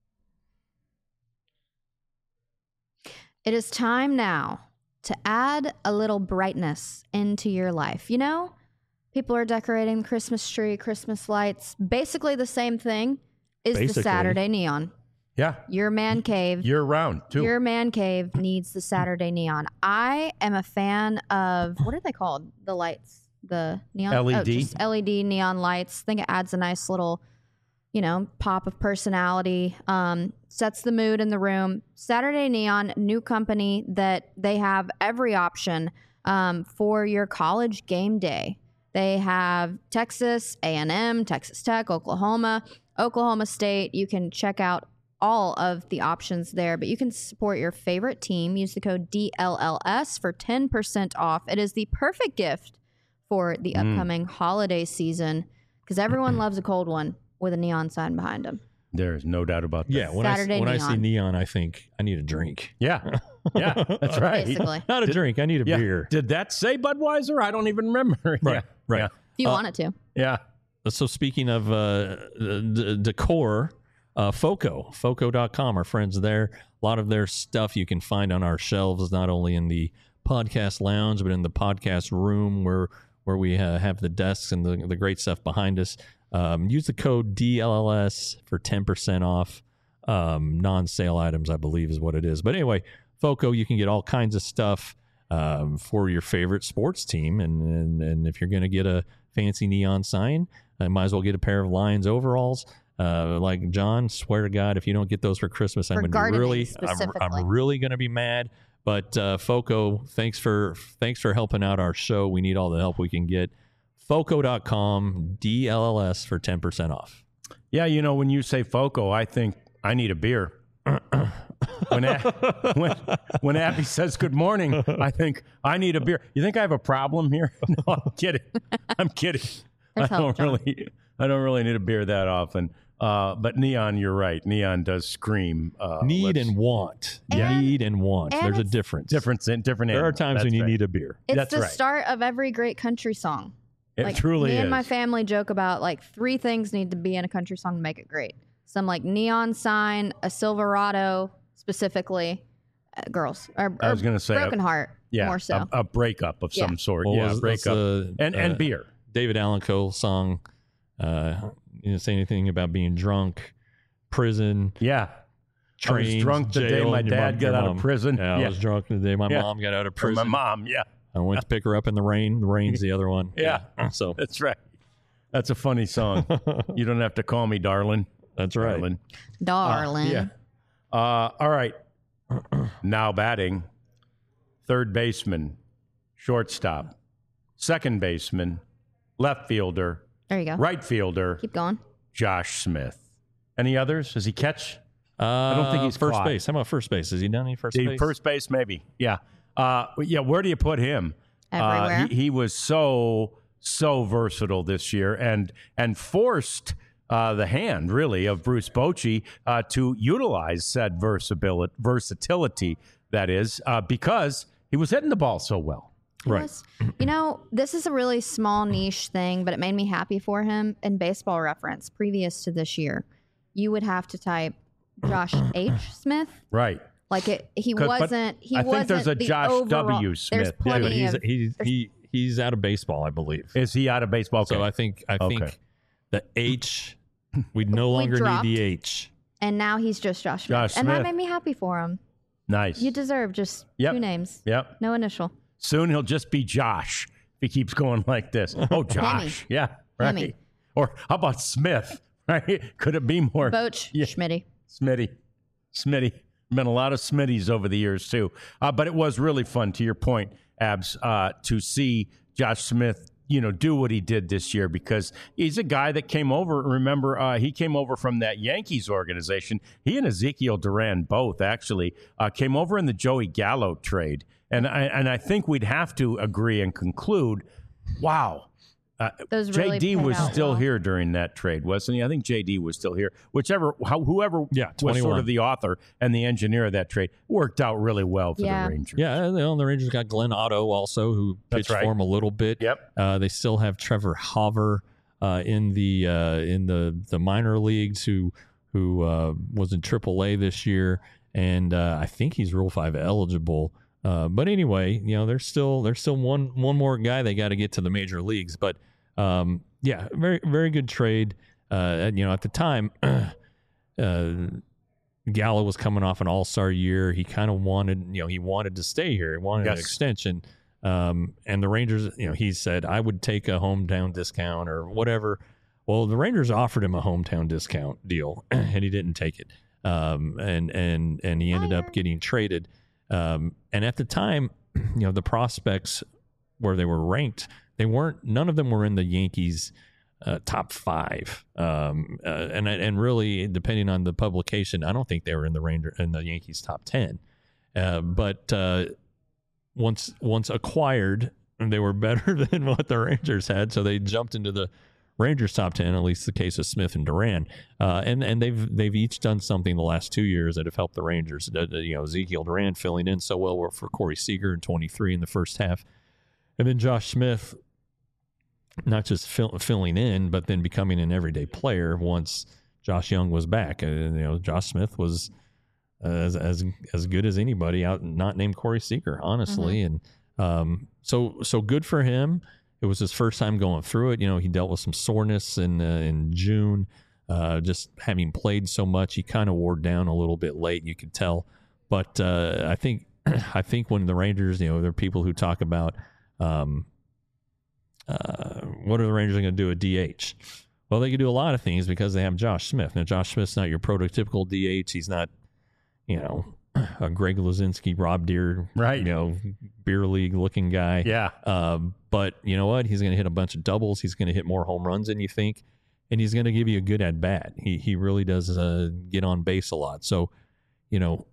It is time now to add a little brightness into your life. You know, people are decorating the Christmas tree, Christmas lights. Basically the same thing is Basically. the Saturday neon. Yeah, Your man cave. year round too. Your man cave needs the Saturday neon. I am a fan of, what are they called? The lights, the neon L E D? Oh, just L E D neon lights. I think it adds a nice little, you know, pop of personality. Um, sets the mood in the room. Saturday Neon, new company that they have every option um, for your college game day. They have Texas A and M, Texas Tech, Oklahoma, Oklahoma State. You can check out all of the options there, but you can support your favorite team. Use the code D L L S for ten percent off. It is the perfect gift for the upcoming holiday season because everyone loves a cold one with a neon sign behind them. There's no doubt about that. Yeah, when, I, Saturday when I neon. see neon, I think I need a drink. Yeah. Yeah. That's right. Basically, Not a drink. I need a Yeah. beer. Did that say Budweiser? I don't even remember. Right, Yeah. right. Yeah. if you Uh, want it to. Yeah. So speaking of uh, d- decor, uh, Foco, foco dot com, our friends there. A lot of their stuff you can find on our shelves, not only in the podcast lounge, but in the podcast room where where we uh, have the desks and the, the great stuff behind us. Um, use the code D L L S for ten percent off um, non-sale items, I believe is what it is. But anyway, Foco, you can get all kinds of stuff um, for your favorite sports team. And, and, and if you're going to get a fancy neon sign, I might as well get a pair of Lions overalls. Uh, like John, swear to God, if you don't get those for Christmas, I'm For going to be gardening really, I'm, specifically. I'm really going to be mad. But uh, Foco, thanks for thanks for helping out our show. We need all the help we can get. foco dot com, D L L S for ten percent off. Yeah. You know, when you say Foco, I think I need a beer. when, A- when when Abby says good morning, I think I need a beer. You think I have a problem here? No, I'm kidding. I'm kidding. I There's help, don't John. really. I don't really need a beer that often. Uh, but neon, you're right. Neon does scream. Uh, Need let's- and want. And- need and want. and There's a it's- difference. different, different. There are animal. times That's when you right. need a beer. It's That's the right. start of every great country song. It Like, truly me is. and my family joke about like three things need to be in a country song to make it great. Some like neon sign, a Silverado specifically, uh, girls. Or, I was or going to say, Broken a, Heart, yeah, more so. a, a breakup of Yeah. some sort. What yeah, was- a what's breakup the, and uh, and beer. David Allan Coe song. Uh, you know, say anything about being drunk, prison, Yeah. train, I was drunk the day jail, my and your dad mom- got your out mom- of prison. Yeah, I Yeah. was drunk the day my Yeah. mom got out of Or my prison. mom. Yeah. I went to pick her up in the rain. The rain's the other one. Yeah. So That's right. That's a funny song. You don't have to call me darling. that's right. Darling. Darling. Yeah. Uh, all right. Now batting. Third baseman, shortstop, second baseman, left fielder, There you go. right fielder, Keep going. Josh Smith. Any others? Does he catch? Uh, don't think he's first caught. base. How about first base? Has he done any first The base? first base, maybe. Yeah. Uh, yeah. Where do you put him? Everywhere. Uh, he, he was so so versatile this year, and and forced uh, the hand really of Bruce Bochy uh, to utilize said versatility. Versatility that is uh, because he was hitting the ball so well. It Right. was- you know, this is a really small niche thing, but it made me happy for him. In Baseball Reference, previous to this year, you would have to type Josh H. Smith. Right. Like it, he 'Cause- but wasn't. He I think wasn't there's a the Josh overall- W. There's Smith. Yeah, Yeah, plenty but he's of. he's he, he's out of baseball, I believe. Is he out of baseball? Okay. So I think I Okay. think the H we no longer dropped. need the H. And now he's just Josh Smith. Josh And that Smith. made me happy for him. nice. You deserve just Yep. two names. Yep. No initial. Soon he'll just be Josh. If he keeps going like this. Oh, Josh. Yeah, right. Hemi. Or how about Smith, right? Could it be more? Boch, Yeah. Schmitty. Smitty. Smitty. Been a lot of Smitties over the years, too. Uh, but it was really fun, to your point, Abs, uh, to see Josh Smith, you know, do what he did this year, because he's a guy that came over. Remember, uh, he came over from that Yankees organization. He and Ezekiel Duran both actually uh, came over in the Joey Gallo trade. And I, and I think we'd have to agree and conclude, wow, uh, Those J D really paid was out still well. here during that trade, wasn't he? I think J D was still here. Whichever, how, whoever Yeah, was sort twenty-one. of the author and the engineer of that trade worked out really well for Yeah. the Rangers. Yeah, you know, the Rangers got Glenn Otto also, who That's pitched right. for him a little bit. Yep. Uh, they still have Trevor Hauver uh, in the uh, in the, the minor leagues, who who uh, was in triple A this year, and uh, I think he's Rule Five eligible. Uh, but anyway, you know, there's still there's still one one more guy they got to get to the major leagues. But um, yeah, very very good trade. Uh, you know, at the time, uh, Gallo was coming off an All Star year. He kind of wanted, you know, he wanted to stay here. He wanted Yes. an extension. Um, and the Rangers, you know, he said, I would take a hometown discount or whatever. Well, the Rangers offered him a hometown discount deal, and he didn't take it. Um, and and and he ended up getting traded. Um, and at the time, you know, the prospects where they were ranked, they weren't. None of them were in the Yankees' uh, top five. Um, uh, and and really, depending on the publication, I don't think they were in the Ranger in the Yankees' top ten. Uh, but uh, once once acquired, they were better than what the Rangers had, so they jumped into the Rangers top ten, at least the case of Smith and Duran, uh, and and they've they've each done something the last two years that have helped the Rangers. Uh, you know, Ezekiel Duran filling in so well for Corey Seager in twenty-three in the first half, and then Josh Smith not just fill, filling in, but then becoming an everyday player once Josh Young was back. Uh, you know, Josh Smith was uh, as as as good as anybody out, not named Corey Seager, honestly, and um, so so good for him. It was his first time going through it. You know, he dealt with some soreness in uh, in June. Uh, just having played so much, he kind of wore down a little bit late. You could tell, but uh, I think I think when the Rangers, you know, there are people who talk about um, uh, what are the Rangers going to do at D H? Well, they could do a lot of things because they have Josh Smith. Now, Josh Smith's not your prototypical D H. He's not, you know, a Greg Luzinski, Rob Deere, Right. you know, beer league looking guy. Yeah. Um, but you know what? He's going to hit a bunch of doubles. He's going to hit more home runs than you think, and he's going to give you a good at bat. He he really does uh, get on base a lot. So, you know,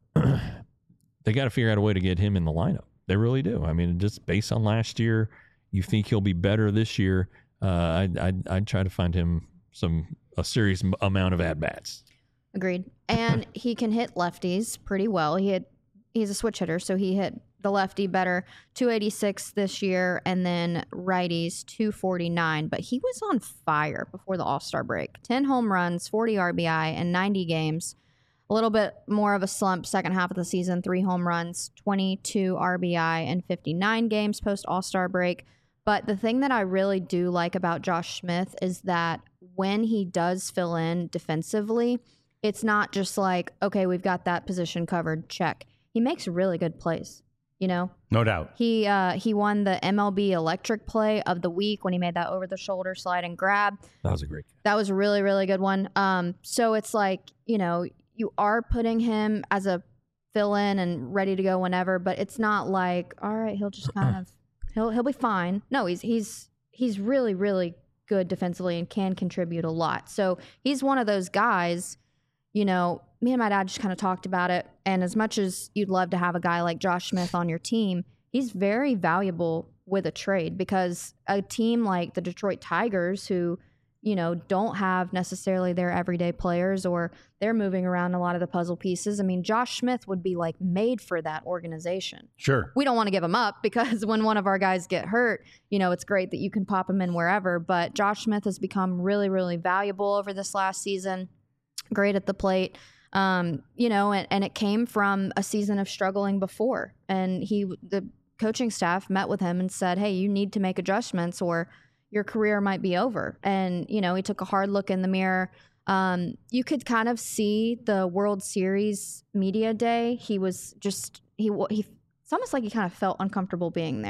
they got to figure out a way to get him in the lineup. They really do. I mean, just based on last year, you think he'll be better this year. Uh, I'd, I'd I'd try to find him some a serious m- amount of at bats. Agreed. And he can hit lefties pretty well. He had he's a switch hitter, so he hit the lefty better. two eighty-six this year, and then righties two forty-nine. But he was on fire before the All-Star break. ten home runs, forty R B I, and ninety games. A little bit more of a slump second half of the season. Three home runs, twenty-two R B I, and fifty-nine games post All-Star break. But the thing that I really do like about Josh Smith is that when he does fill in defensively, it's not just like, okay, we've got that position covered, check. He makes really good plays, you know? No doubt. He uh, he won the M L B Electric Play of the Week when he made that over-the-shoulder slide and grab. That was a great. That was a really, really good one. Um, so it's like, you know, you are putting him as a fill-in and ready to go whenever, but it's not like, all right, he'll just kind of, he'll he'll be fine. No, he's he's he's really, really good defensively and can contribute a lot. So he's one of those guys. You know, me and my dad just kind of talked about it. And as much as you'd love to have a guy like Josh Smith on your team, he's very valuable with a trade because a team like the Detroit Tigers, who, you know, don't have necessarily their everyday players or they're moving around a lot of the puzzle pieces. I mean, Josh Smith would be like made for that organization. Sure. We don't want to give him up because when one of our guys get hurt, you know, it's great that you can pop him in wherever. But Josh Smith has become really, really valuable over this last season. Great at the plate, um, you know, and, and it came from a season of struggling before. And he, the coaching staff met with him and said, hey, you need to make adjustments or your career might be over. And, you know, he took a hard look in the mirror. Um, you could kind of see the World Series media day. He was just, he, he, it's almost like he kind of felt uncomfortable being there.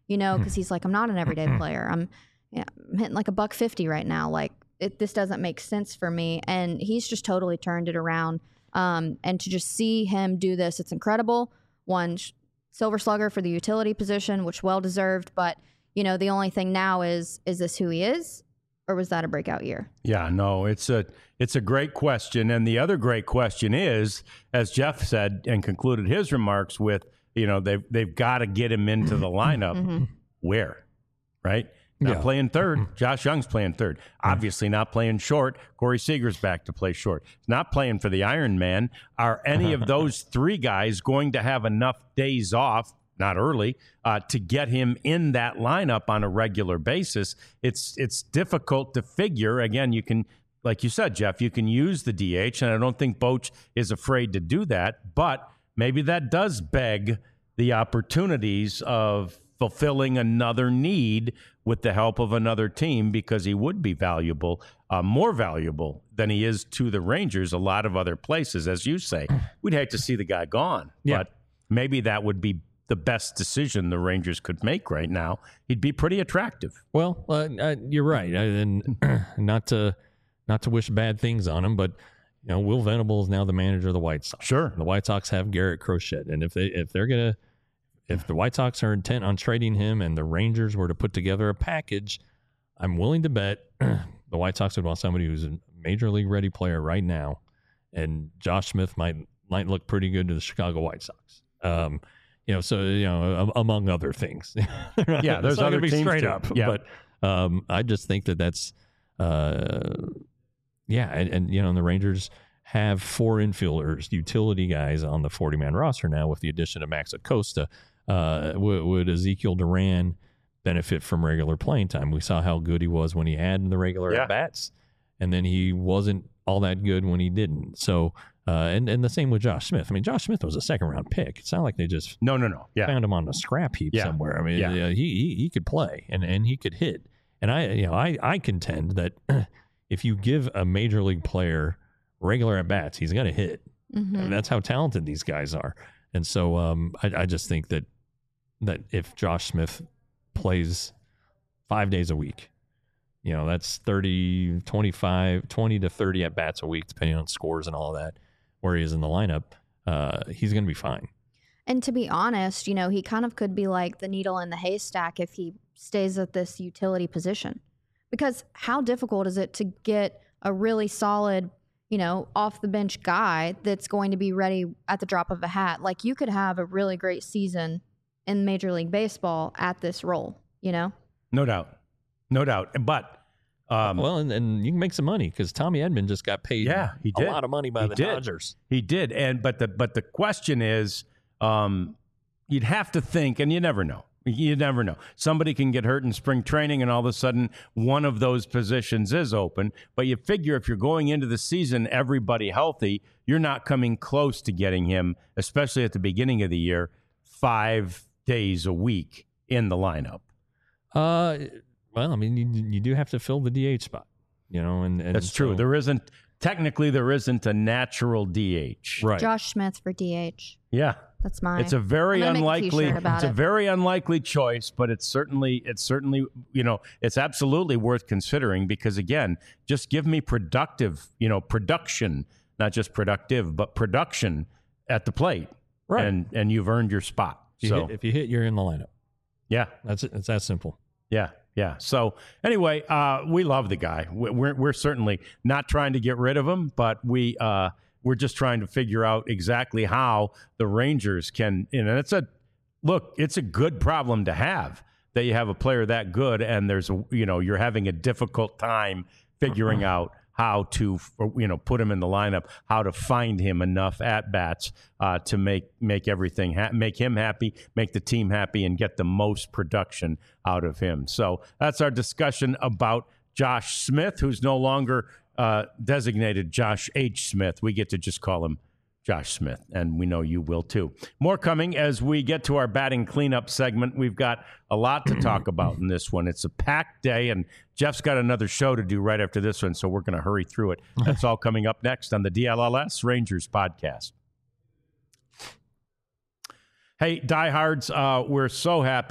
you know, because he's like, I'm not an everyday player. I'm, yeah, I'm hitting like a buck fifty right now. Like it, this doesn't make sense for me. And he's just totally turned it around. Um, and to just see him do this, it's incredible. One Silver Slugger for the utility position, which well deserved. But you know, the only thing now is, is this who he is, or was that a breakout year? Yeah, no, it's a it's a great question. And the other great question is, as Jeff said and concluded his remarks with, you know, they've, they've got to get him into the lineup. Mm-hmm. Where? Right? Not Yeah. playing third. Josh Young's playing third. Obviously not playing short. Corey Seager's back to play short. Not playing for the Iron Man. Are any of those three guys going to have enough days off, not early, uh, to get him in that lineup on a regular basis? It's it's difficult to figure. Again, you can, like you said, Jeff, you can use the D H, and I don't think Boch is afraid to do that. But maybe that does beg the opportunities of fulfilling another need with the help of another team, because he would be valuable, uh, more valuable than he is to the Rangers a lot of other places. As you say, we'd hate to see the guy gone, Yeah. but maybe that would be the best decision the Rangers could make right now. He'd be pretty attractive. Well, uh, uh, you're right, I, and not to not to wish bad things on him, but you know, Will Venable is now the manager of the White Sox. Sure. The White Sox have Garrett Crochet, and if they if they're gonna if the White Sox are intent on trading him, and the Rangers were to put together a package, I'm willing to bet the White Sox would want somebody who's a major league ready player right now, and Josh Smith might might look pretty good to the Chicago White Sox. Um, you know, so you know, among other things. Yeah, there's it's not other gonna be teams straight too. up, Yeah. but um, I just think that that's uh, yeah, and, and you know, the Rangers have four infielders, utility guys on the forty-man roster now with the addition of Max Acosta. Uh, would, would Ezekiel Duran benefit from regular playing time? We saw how good he was when he had the regular Yeah. at-bats, and then he wasn't all that good when he didn't. So, uh, and, and the same with Josh Smith. I mean, Josh Smith was a second-round pick. It's not like they just No, no, no. Yeah. found him on a scrap heap Yeah. somewhere. I mean, Yeah. uh, he, he he could play and, and he could hit. And I you know I, I contend that if you give a major league player regular at bats, he's going to hit. Mm-hmm. And that's how talented these guys are. And so um, I, I just think that that if Josh Smith plays five days a week, you know, that's thirty, twenty-five, twenty to thirty at bats a week, depending on scores and all that, where he is in the lineup, uh, he's going to be fine. And to be honest, you know, he kind of could be like the needle in the haystack if he stays at this utility position. Because how difficult is it to get a really solid, you know, off the bench guy that's going to be ready at the drop of a hat? Like, you could have a really great season in Major League Baseball at this role, you know? No doubt. No doubt. But um, well, and, and you can make some money because Tommy Edman just got paid Yeah, he a did. lot of money by He the did. Dodgers. he did. And but the but the question is, um, you'd have to think, and you never know. You never know. Somebody can get hurt in spring training, and all of a sudden, one of those positions is open. But you figure if you're going into the season, everybody healthy, you're not coming close to getting him, especially at the beginning of the year, five days a week in the lineup. Uh, well, I mean, you, you do have to fill the D H spot, you know, and, and That's true. so- There isn't technically there isn't a natural D H. right. Josh Smith for D H. Yeah. That's mine. It's a very I'm gonna make a unlikely t-shirt about it's a it. very unlikely choice, but it's certainly it's certainly, you know, it's absolutely worth considering because again, just give me productive, you know, production, not just productive, but production at the plate. Right. And and you've earned your spot. If you, So, hit, if you hit, you're in the lineup. yeah. That's it. It's that simple. Yeah, yeah. So anyway, uh, we love the guy. We- We're we're certainly not trying to get rid of him, but we uh, we're just trying to figure out exactly how the Rangers can. You know, it's a look. It's a good problem to have that you have a player that good, and there's a you know you're having a difficult time figuring out how to you know put him in the lineup, how to find him enough at bats uh, to make make everything ha- make him happy, make the team happy, and get the most production out of him. So that's our discussion about Josh Smith, who's no longer uh, designated Josh H. Smith. We get to just call him Josh Smith, and we know you will too. More coming as we get to our batting cleanup segment. We've got a lot to talk about in this one. It's a packed day, and Jeff's got another show to do right after this one, so we're going to hurry through it. That's all coming up next on the D L L S Rangers podcast. Hey, diehards, uh, we're so happy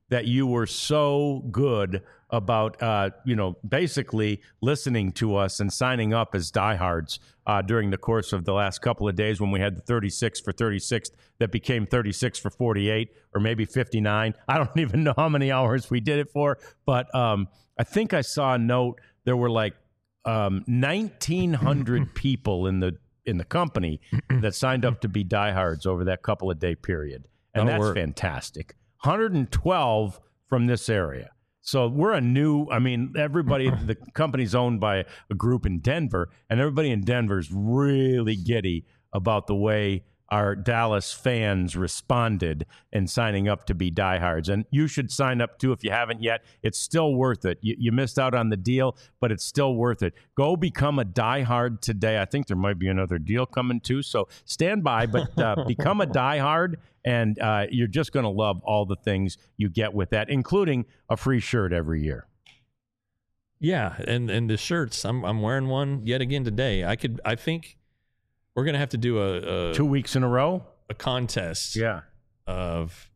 that you were so good about, uh, you know, basically listening to us and signing up as diehards uh, during the course of the last couple of days when we had the thirty-six for thirty-six that became thirty-six for forty-eight or maybe fifty-nine. I don't even know how many hours we did it for, but um, I think I saw a note. There were like um, nineteen hundred people in the in the company that signed up to be diehards over that couple of day period. And That'll that's work. fantastic. one hundred twelve from this area. So we're a new, I mean, everybody, the company's owned by a group in Denver, and everybody in Denver is really giddy about the way our Dallas fans responded in signing up to be diehards. And you should sign up too if you haven't yet. It's still worth it. You, you missed out on the deal, but it's still worth it. Go become a diehard today. I think there might be another deal coming too. So stand by, but uh, become a diehard, and uh, you're just going to love all the things you get with that, including a free shirt every year. Yeah, and and the shirts, I'm I'm wearing one yet again today. I could, I think we're gonna have to do a, a Two weeks in a row? a contest. Yeah. Of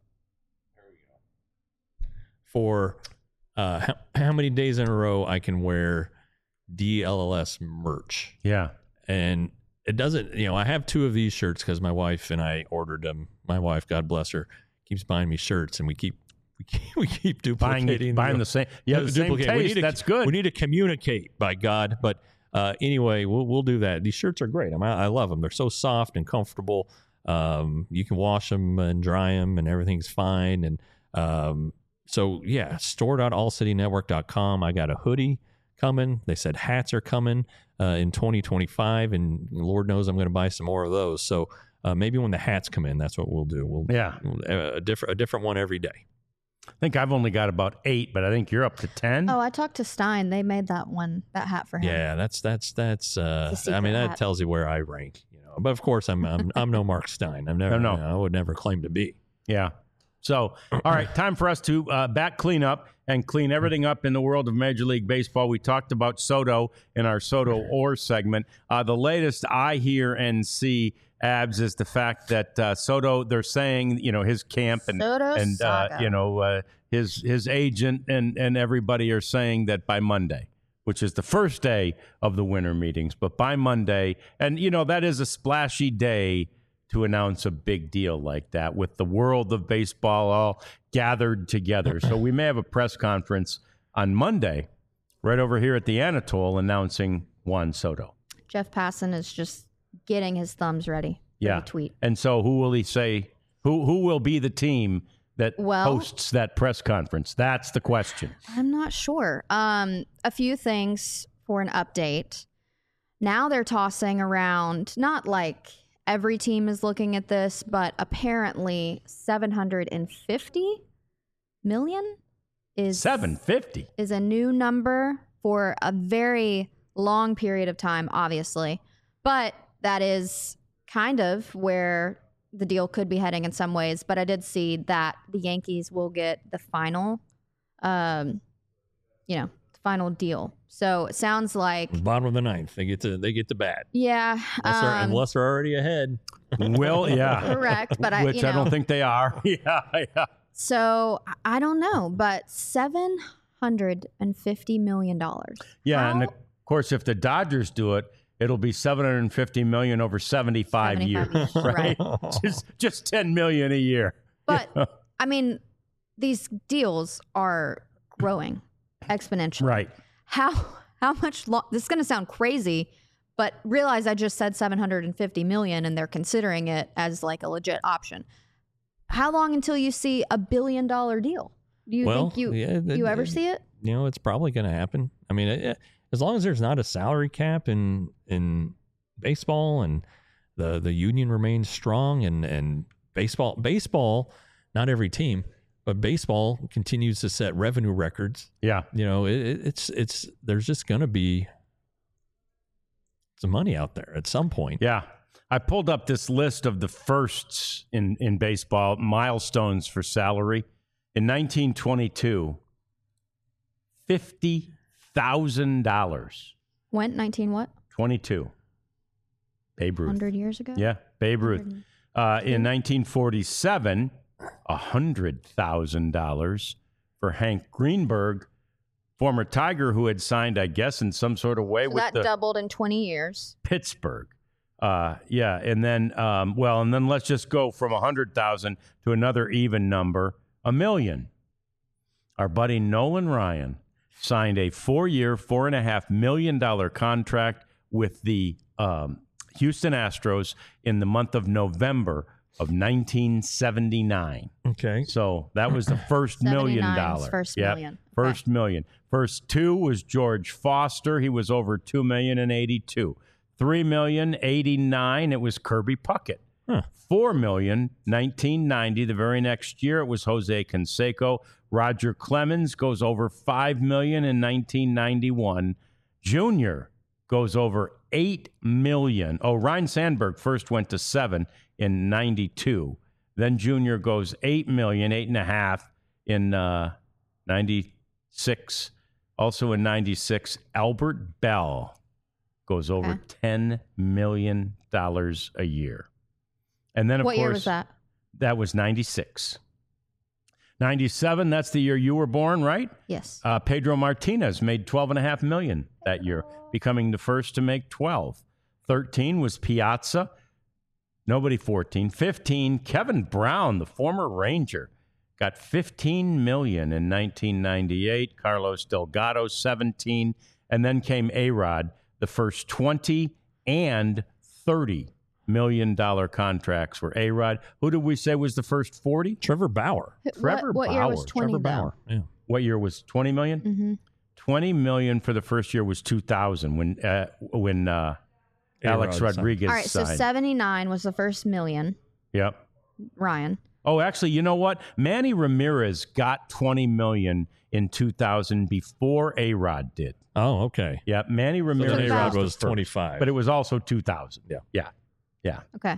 for uh, how, how many days in a row I can wear D L L S merch. Yeah. And it doesn't, you know, I have two of these shirts because my wife and I ordered them. My wife, God bless her, keeps buying me shirts, and we keep we keep, we keep Buying, duplicating buying the same. Yeah, the same duplicate. We taste. need to- That's good. We need to communicate, by God. But uh, anyway, we'll we'll do that. These shirts are great. I mean, I love them. They're so soft and comfortable. Um, you can wash them and dry them, and everything's fine. And um, so, yeah, store dot all city network dot com. I got a hoodie coming. They said hats are coming uh, in twenty twenty-five, and Lord knows I'm going to buy some more of those. So uh, maybe when the hats come in, that's what we'll do. We'll Yeah. we'll- a different a different one every day. I think I've only got about eight, but I think you're up to ten. Oh, I talked to Stein. They made that one, that hat for him. Yeah, that's that's that's. Uh, It's a I mean, secret that hat. tells you where I rank. You know, but of course, I'm I'm, I'm no Mark Stein. I'm never. No, no. I would never claim to be. Yeah. So, all right, time for us to uh, back clean up and clean everything up in the world of Major League Baseball. We talked about Soto in our Soto Or segment. Uh, the latest I hear and see, Abs, is the fact that uh, Soto, they're saying, you know, his camp and Soto and uh, saga. you know uh, his his agent and and everybody are saying that by Monday, which is the first day of the winter meetings, but by Monday, and you know that is a splashy day to announce a big deal like that with the world of baseball all gathered together. So we may have a press conference on Monday right over here at the Anatole announcing Juan Soto. Jeff Passan is just getting his thumbs ready for Yeah. the tweet. And so who will he say, who who will be the team that Well- hosts that press conference? That's the question. I'm not sure. Um, a few things for an update. Now they're tossing around, not like every team is looking at this, but apparently seven hundred fifty million is seven fifty. is a new number for a very long period of time, obviously. But that is kind of where the deal could be heading in some ways. But I did see that the Yankees will get the final, um, you know, final deal. So it sounds like, Bottom of the ninth, they get to they get to bat yeah, unless, they're, um, unless they're already ahead. Will, yeah. correct. But I, Which you know, I don't think they are. yeah, yeah. so. I- I don't know, but seven hundred and fifty million dollars. Yeah, and How- of course, if the Dodgers do it, it'll be seven hundred fifty million over seventy-five, seventy-five years, years, right? just just ten million a year. But I mean, these deals are growing exponentially. Right. How how much lo- this is going to sound crazy, but realize I just said seven hundred fifty million and they're considering it as like a legit option. How long until you see a billion dollar deal? Do you Well, think you yeah, you it- ever it- see it? You know, it's probably going to happen. I mean, it, as long as there's not a salary cap in in baseball and the the union remains strong and and baseball baseball, not every team, but baseball continues to set revenue records. Yeah. You know, it, it- it's it's there's just going to be some money out there at some point. Yeah. I pulled up this list of the firsts in, in baseball, milestones for salary. In nineteen twenty-two, fifty thousand dollars. Went nineteen what? twenty-two. Babe Ruth. one hundred years ago? Yeah, Babe Ruth. one hundred. Uh, in nineteen forty-seven, one hundred thousand dollars for Hank Greenberg, former Tiger who had signed, I guess, in some sort of way So with that the doubled in twenty years. Pittsburgh. Uh, yeah, and then, um, well, and then let's just go from one hundred thousand to another even number, a million. Our buddy Nolan Ryan signed a four-year, four and a half million dollar contract with the um, Houston Astros in the month of November of nineteen seventy-nine. Okay. So that was the first million seventy-nine dollar. was first Yep, million. First million. First two was George Foster. He was over two million and eighty-two. Three million eighty-nine. It was Kirby Puckett. Huh. Four million nineteen ninety. The very next year, it was Jose Canseco. Roger Clemens goes over five million in nineteen ninety-one. Junior goes over eight million. Oh, Ryan Sandberg first went to seven in ninety-two. Then Junior goes eight million, eight and a half in uh, ninety-six. Also in ninety-six, Albert Bell goes over Okay. ten million dollars a year. And then, of What course, year was that? that was ninety-six. ninety-seven, that's the year you were born, right? Yes. Uh, Pedro Martinez made twelve and a half million that year, becoming the first to make twelve. thirteen was Piazza. Nobody fourteen. fifteen, Kevin Brown, the former Ranger, got fifteen million in nineteen ninety-eight. Carlos Delgado, seventeen. And then came A-Rod, the first twenty and thirty million dollar contracts were A-Rod. Who did we say was the first forty? Trevor Bauer. Trevor what, what year was Bauer. twenty? Trevor Bauer. Yeah. What year was twenty million? Mm-hmm. twenty million for the first year was two thousand when uh, when uh, Alex A-Rod signed. Rodriguez All right, so signed. seventy-nine was the first million. Yep. Ryan. Oh, actually, you know what? Manny Ramirez got twenty million in two thousand before A-Rod did. Oh, okay. Yeah, Manny So Ramirez then A-Rod the was first, twenty-five. but it was also two thousand. Yeah. Yeah. Yeah. Okay.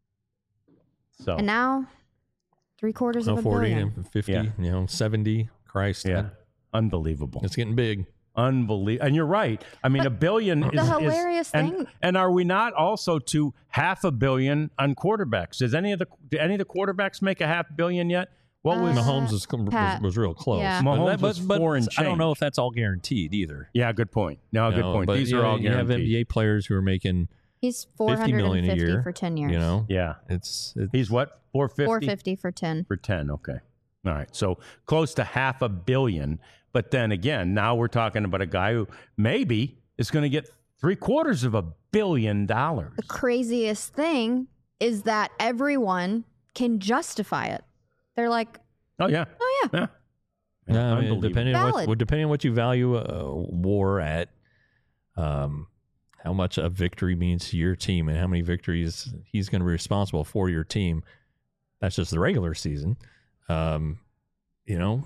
So And now, three quarters no, of a forty billion. and fifty, Yeah. you know, seventy. Christ. yeah, man. unbelievable. It's getting big. Unbelievable. And you're right. I mean, a billion the is, is- hilarious and, thing- And are we not also to half a billion on quarterbacks? Does any of the do any of the quarterbacks make a half billion yet? What was Uh, Mahomes was, was, Pat. was real close. Yeah. But Mahomes that- but- was but four and I don't know change. if that's all guaranteed either. Yeah, good point. No, You good know, point. but, These you are know, all you have guaranteed. N B A players who are making He's four fifty hundred million a fifty year for ten years. You know, Yeah. it's, it's He's what? four fifty? four fifty for ten. For ten, okay. All right. So close to half a billion. But then again, now we're talking about a guy who maybe is going to get three quarters of a billion dollars. The craziest thing is that everyone can justify it. They're like, Oh, yeah. oh yeah, Yeah. Yeah, I mean, Unbelievable. depending on what, Valid. well, depending on what you value a war at, um, how much a victory means to your team, and how many victories he's going to be responsible for your team. That's just the regular season. Um, you know,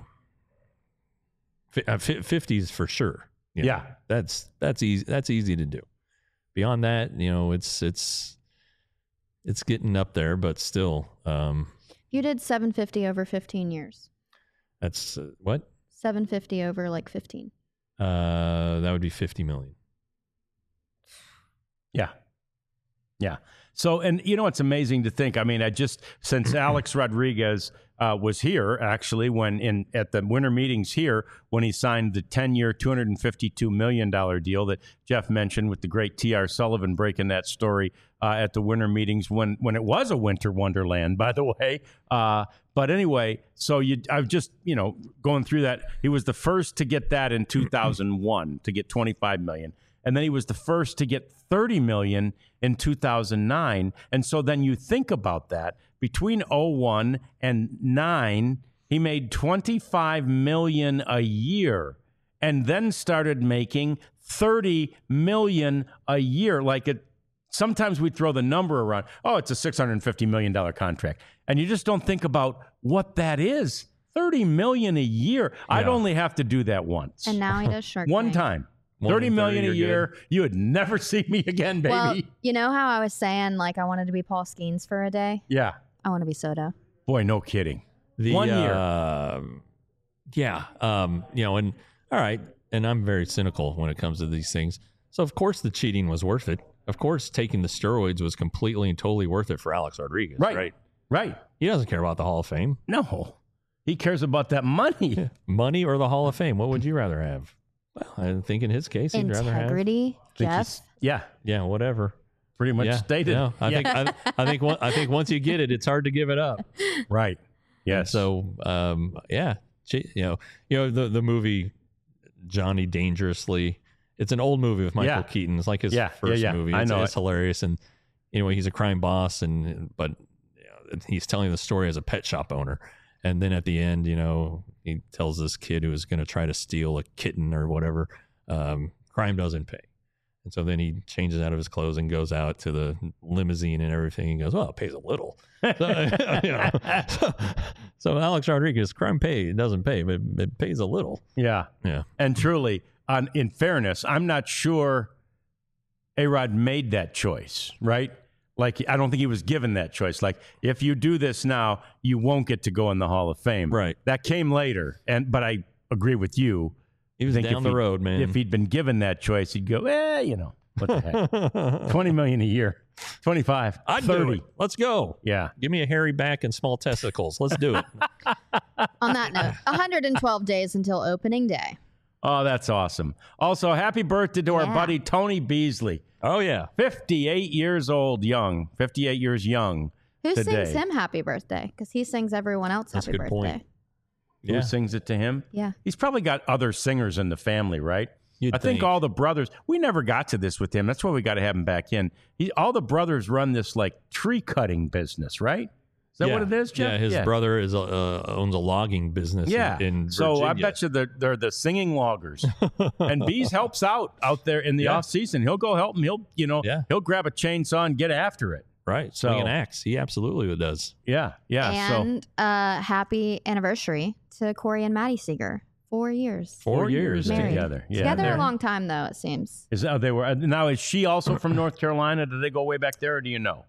fifties for sure. You know, Yeah. that's that's easy. That's easy to do. Beyond that, you know, it's it's it's getting up there, but still, um, you did seven fifty over fifteen years. that's uh, what seven fifty over like fifteen. uh, that would be fifty million. Yeah. Yeah. So, and you know, it's amazing to think. I mean, I just, since Alex Rodriguez uh, was here, actually, when in at the winter meetings here, when he signed the ten-year, two hundred fifty-two million dollars deal that Jeff mentioned with the great T R Sullivan breaking that story uh, at the winter meetings when, when it was a winter wonderland, by the way. Uh, but anyway, so you, I've just, you know, going through that. He was the first to get that in two thousand one, to get twenty-five million dollars. And then he was the first to get thirty million dollars in two thousand nine. And so then you think about that. Between oh one and nine, he made twenty-five million dollars a year and then started making thirty million dollars a year. Like it, sometimes we throw the number around. Oh, it's a six hundred fifty million dollars contract. And you just don't think about what that is. thirty million dollars a year. I'd Yeah. only have to do that once. And now he does Shark One Tank. time. One thirty and million a thirty, you're year. good. You would never see me again, baby. Well, you know how I was saying like I wanted to be Paul Skeens for a day? yeah. I want to be Soto. Boy, no kidding. The, One year. um, yeah. Um, you know, and all right. And I'm very cynical when it comes to these things. So, of course, the cheating was worth it. Of course, taking the steroids was completely and totally worth it for Alex Rodriguez. Right. Right. Right. He doesn't care about the Hall of Fame. No. He cares about that money. Money or the Hall of Fame? What would you rather have? Well, I think in his case, he'd rather have. Integrity, Think Jeff. he's- Yeah. Yeah, whatever. Pretty much yeah, stated. yeah. I Yeah. think I, I think one, I think once you get it, it's hard to give it up. Right. And Yes. so, um, yeah, She- you know, you know the the movie Johnny Dangerously. It's an old movie with Michael Yeah. Keaton. It's like his Yeah, first yeah, yeah. movie. I It's, know it's it. hilarious, and anyway, he's a crime boss, and but you know, he's telling the story as a pet shop owner. And then at the end, you know, he tells this kid who was going to try to steal a kitten or whatever, um, crime doesn't pay. And so then he changes out of his clothes and goes out to the limousine and everything. He goes, well, it pays a little. So, you know, so, so Alex Rodriguez, crime pay, it doesn't pay, but it pays a little. Yeah. Yeah. And truly, on in fairness, I'm not sure A-Rod made that choice, right? Like, I don't think he was given that choice. Like, if you do this now, you won't get to go in the Hall of Fame. Right. That came later. And but I agree with you. He was I think down if the he- road, man. If he'd been given that choice, he'd go, eh, you know, what the heck? twenty million a year, twenty-five, I'd thirty. do it. Let's go. Yeah. Give me a hairy back and small testicles. Let's do it. On that note, one hundred twelve days until opening day. Oh, that's awesome. Also, happy birthday to our Yeah. buddy Tony Beasley. Oh, yeah. fifty-eight years old, young. fifty-eight years young. Who Today. sings him happy birthday? Because he sings everyone else That's a happy good birthday. point. Who Yeah. sings it to him? Yeah. He's probably got other singers in the family, right? You'd I think, think. all the brothers, we never got to this with him. That's why we got to have him back in. He, all the brothers run this like tree cutting business, right? Is that Yeah. what it is, Jeff? Yeah, his brother is a, uh, owns a logging business Yeah. in, in so I Virginia. bet you they're, they're the singing loggers. And Bees helps out out there in the Yeah. off season. He'll go help him. He'll, you know, Yeah. he'll grab a chainsaw and get after it. Right. So- Swing an axe. He absolutely does. Yeah. Yeah. so And uh, happy anniversary to Corey and Maddie Seeger. Four years. Four, Four years. years Married. together. Yeah. Together they're- a long time, though, it seems. Is that, they were now? Is she also from North Carolina? Did they go way back there, or do you know?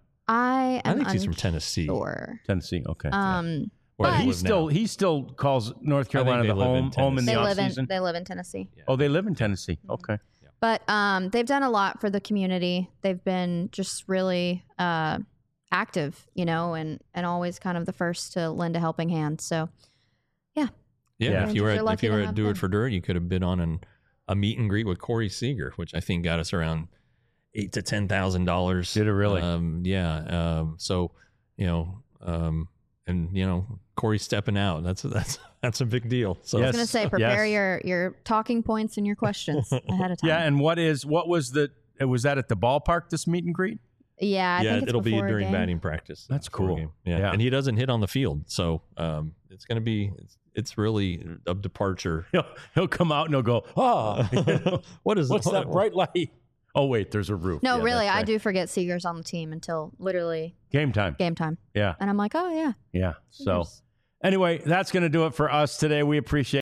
I I am think she's from Tennessee. unsure. Tennessee. Okay. Um, Where but they he live still now. he still calls North Carolina they the live in home home in the they off live in season. they live in Tennessee. Oh, they live in Tennessee. Okay. But um, they've done a lot for the community. They've been just really uh, active, you know, and, and always kind of the first to lend a helping hand. So, Yeah, Yeah. if you were You're at, if lucky you to were at have Do them. It for Dirt, you could have been on an, a meet and greet with Corey Seager, which I think got us around eight to ten thousand dollars. Did it really? Um, yeah. Um, so you know, um, and you know, Corey stepping out. That's that's that's a big deal. So I Yes. was going to say, prepare yes. your, your talking points and your questions ahead of time. Yeah. And what is what was the was that at the ballpark? This meet and greet? yeah, I yeah, think it's it'll be before a during game. batting practice. That's before a cool. game. Yeah. Yeah. and he doesn't hit on the field, so um, it's going to be it's, it's really a departure. He'll he'll come out and he'll go, oh, what is what's what- that bright light? Oh wait, there's a roof. No, Yeah, really, that's I right. do forget Seager's on the team until literally Game time. game time. Yeah. And I'm like, oh, yeah. Yeah. So Seager's. anyway, that's going to do it for us today. We appreciate.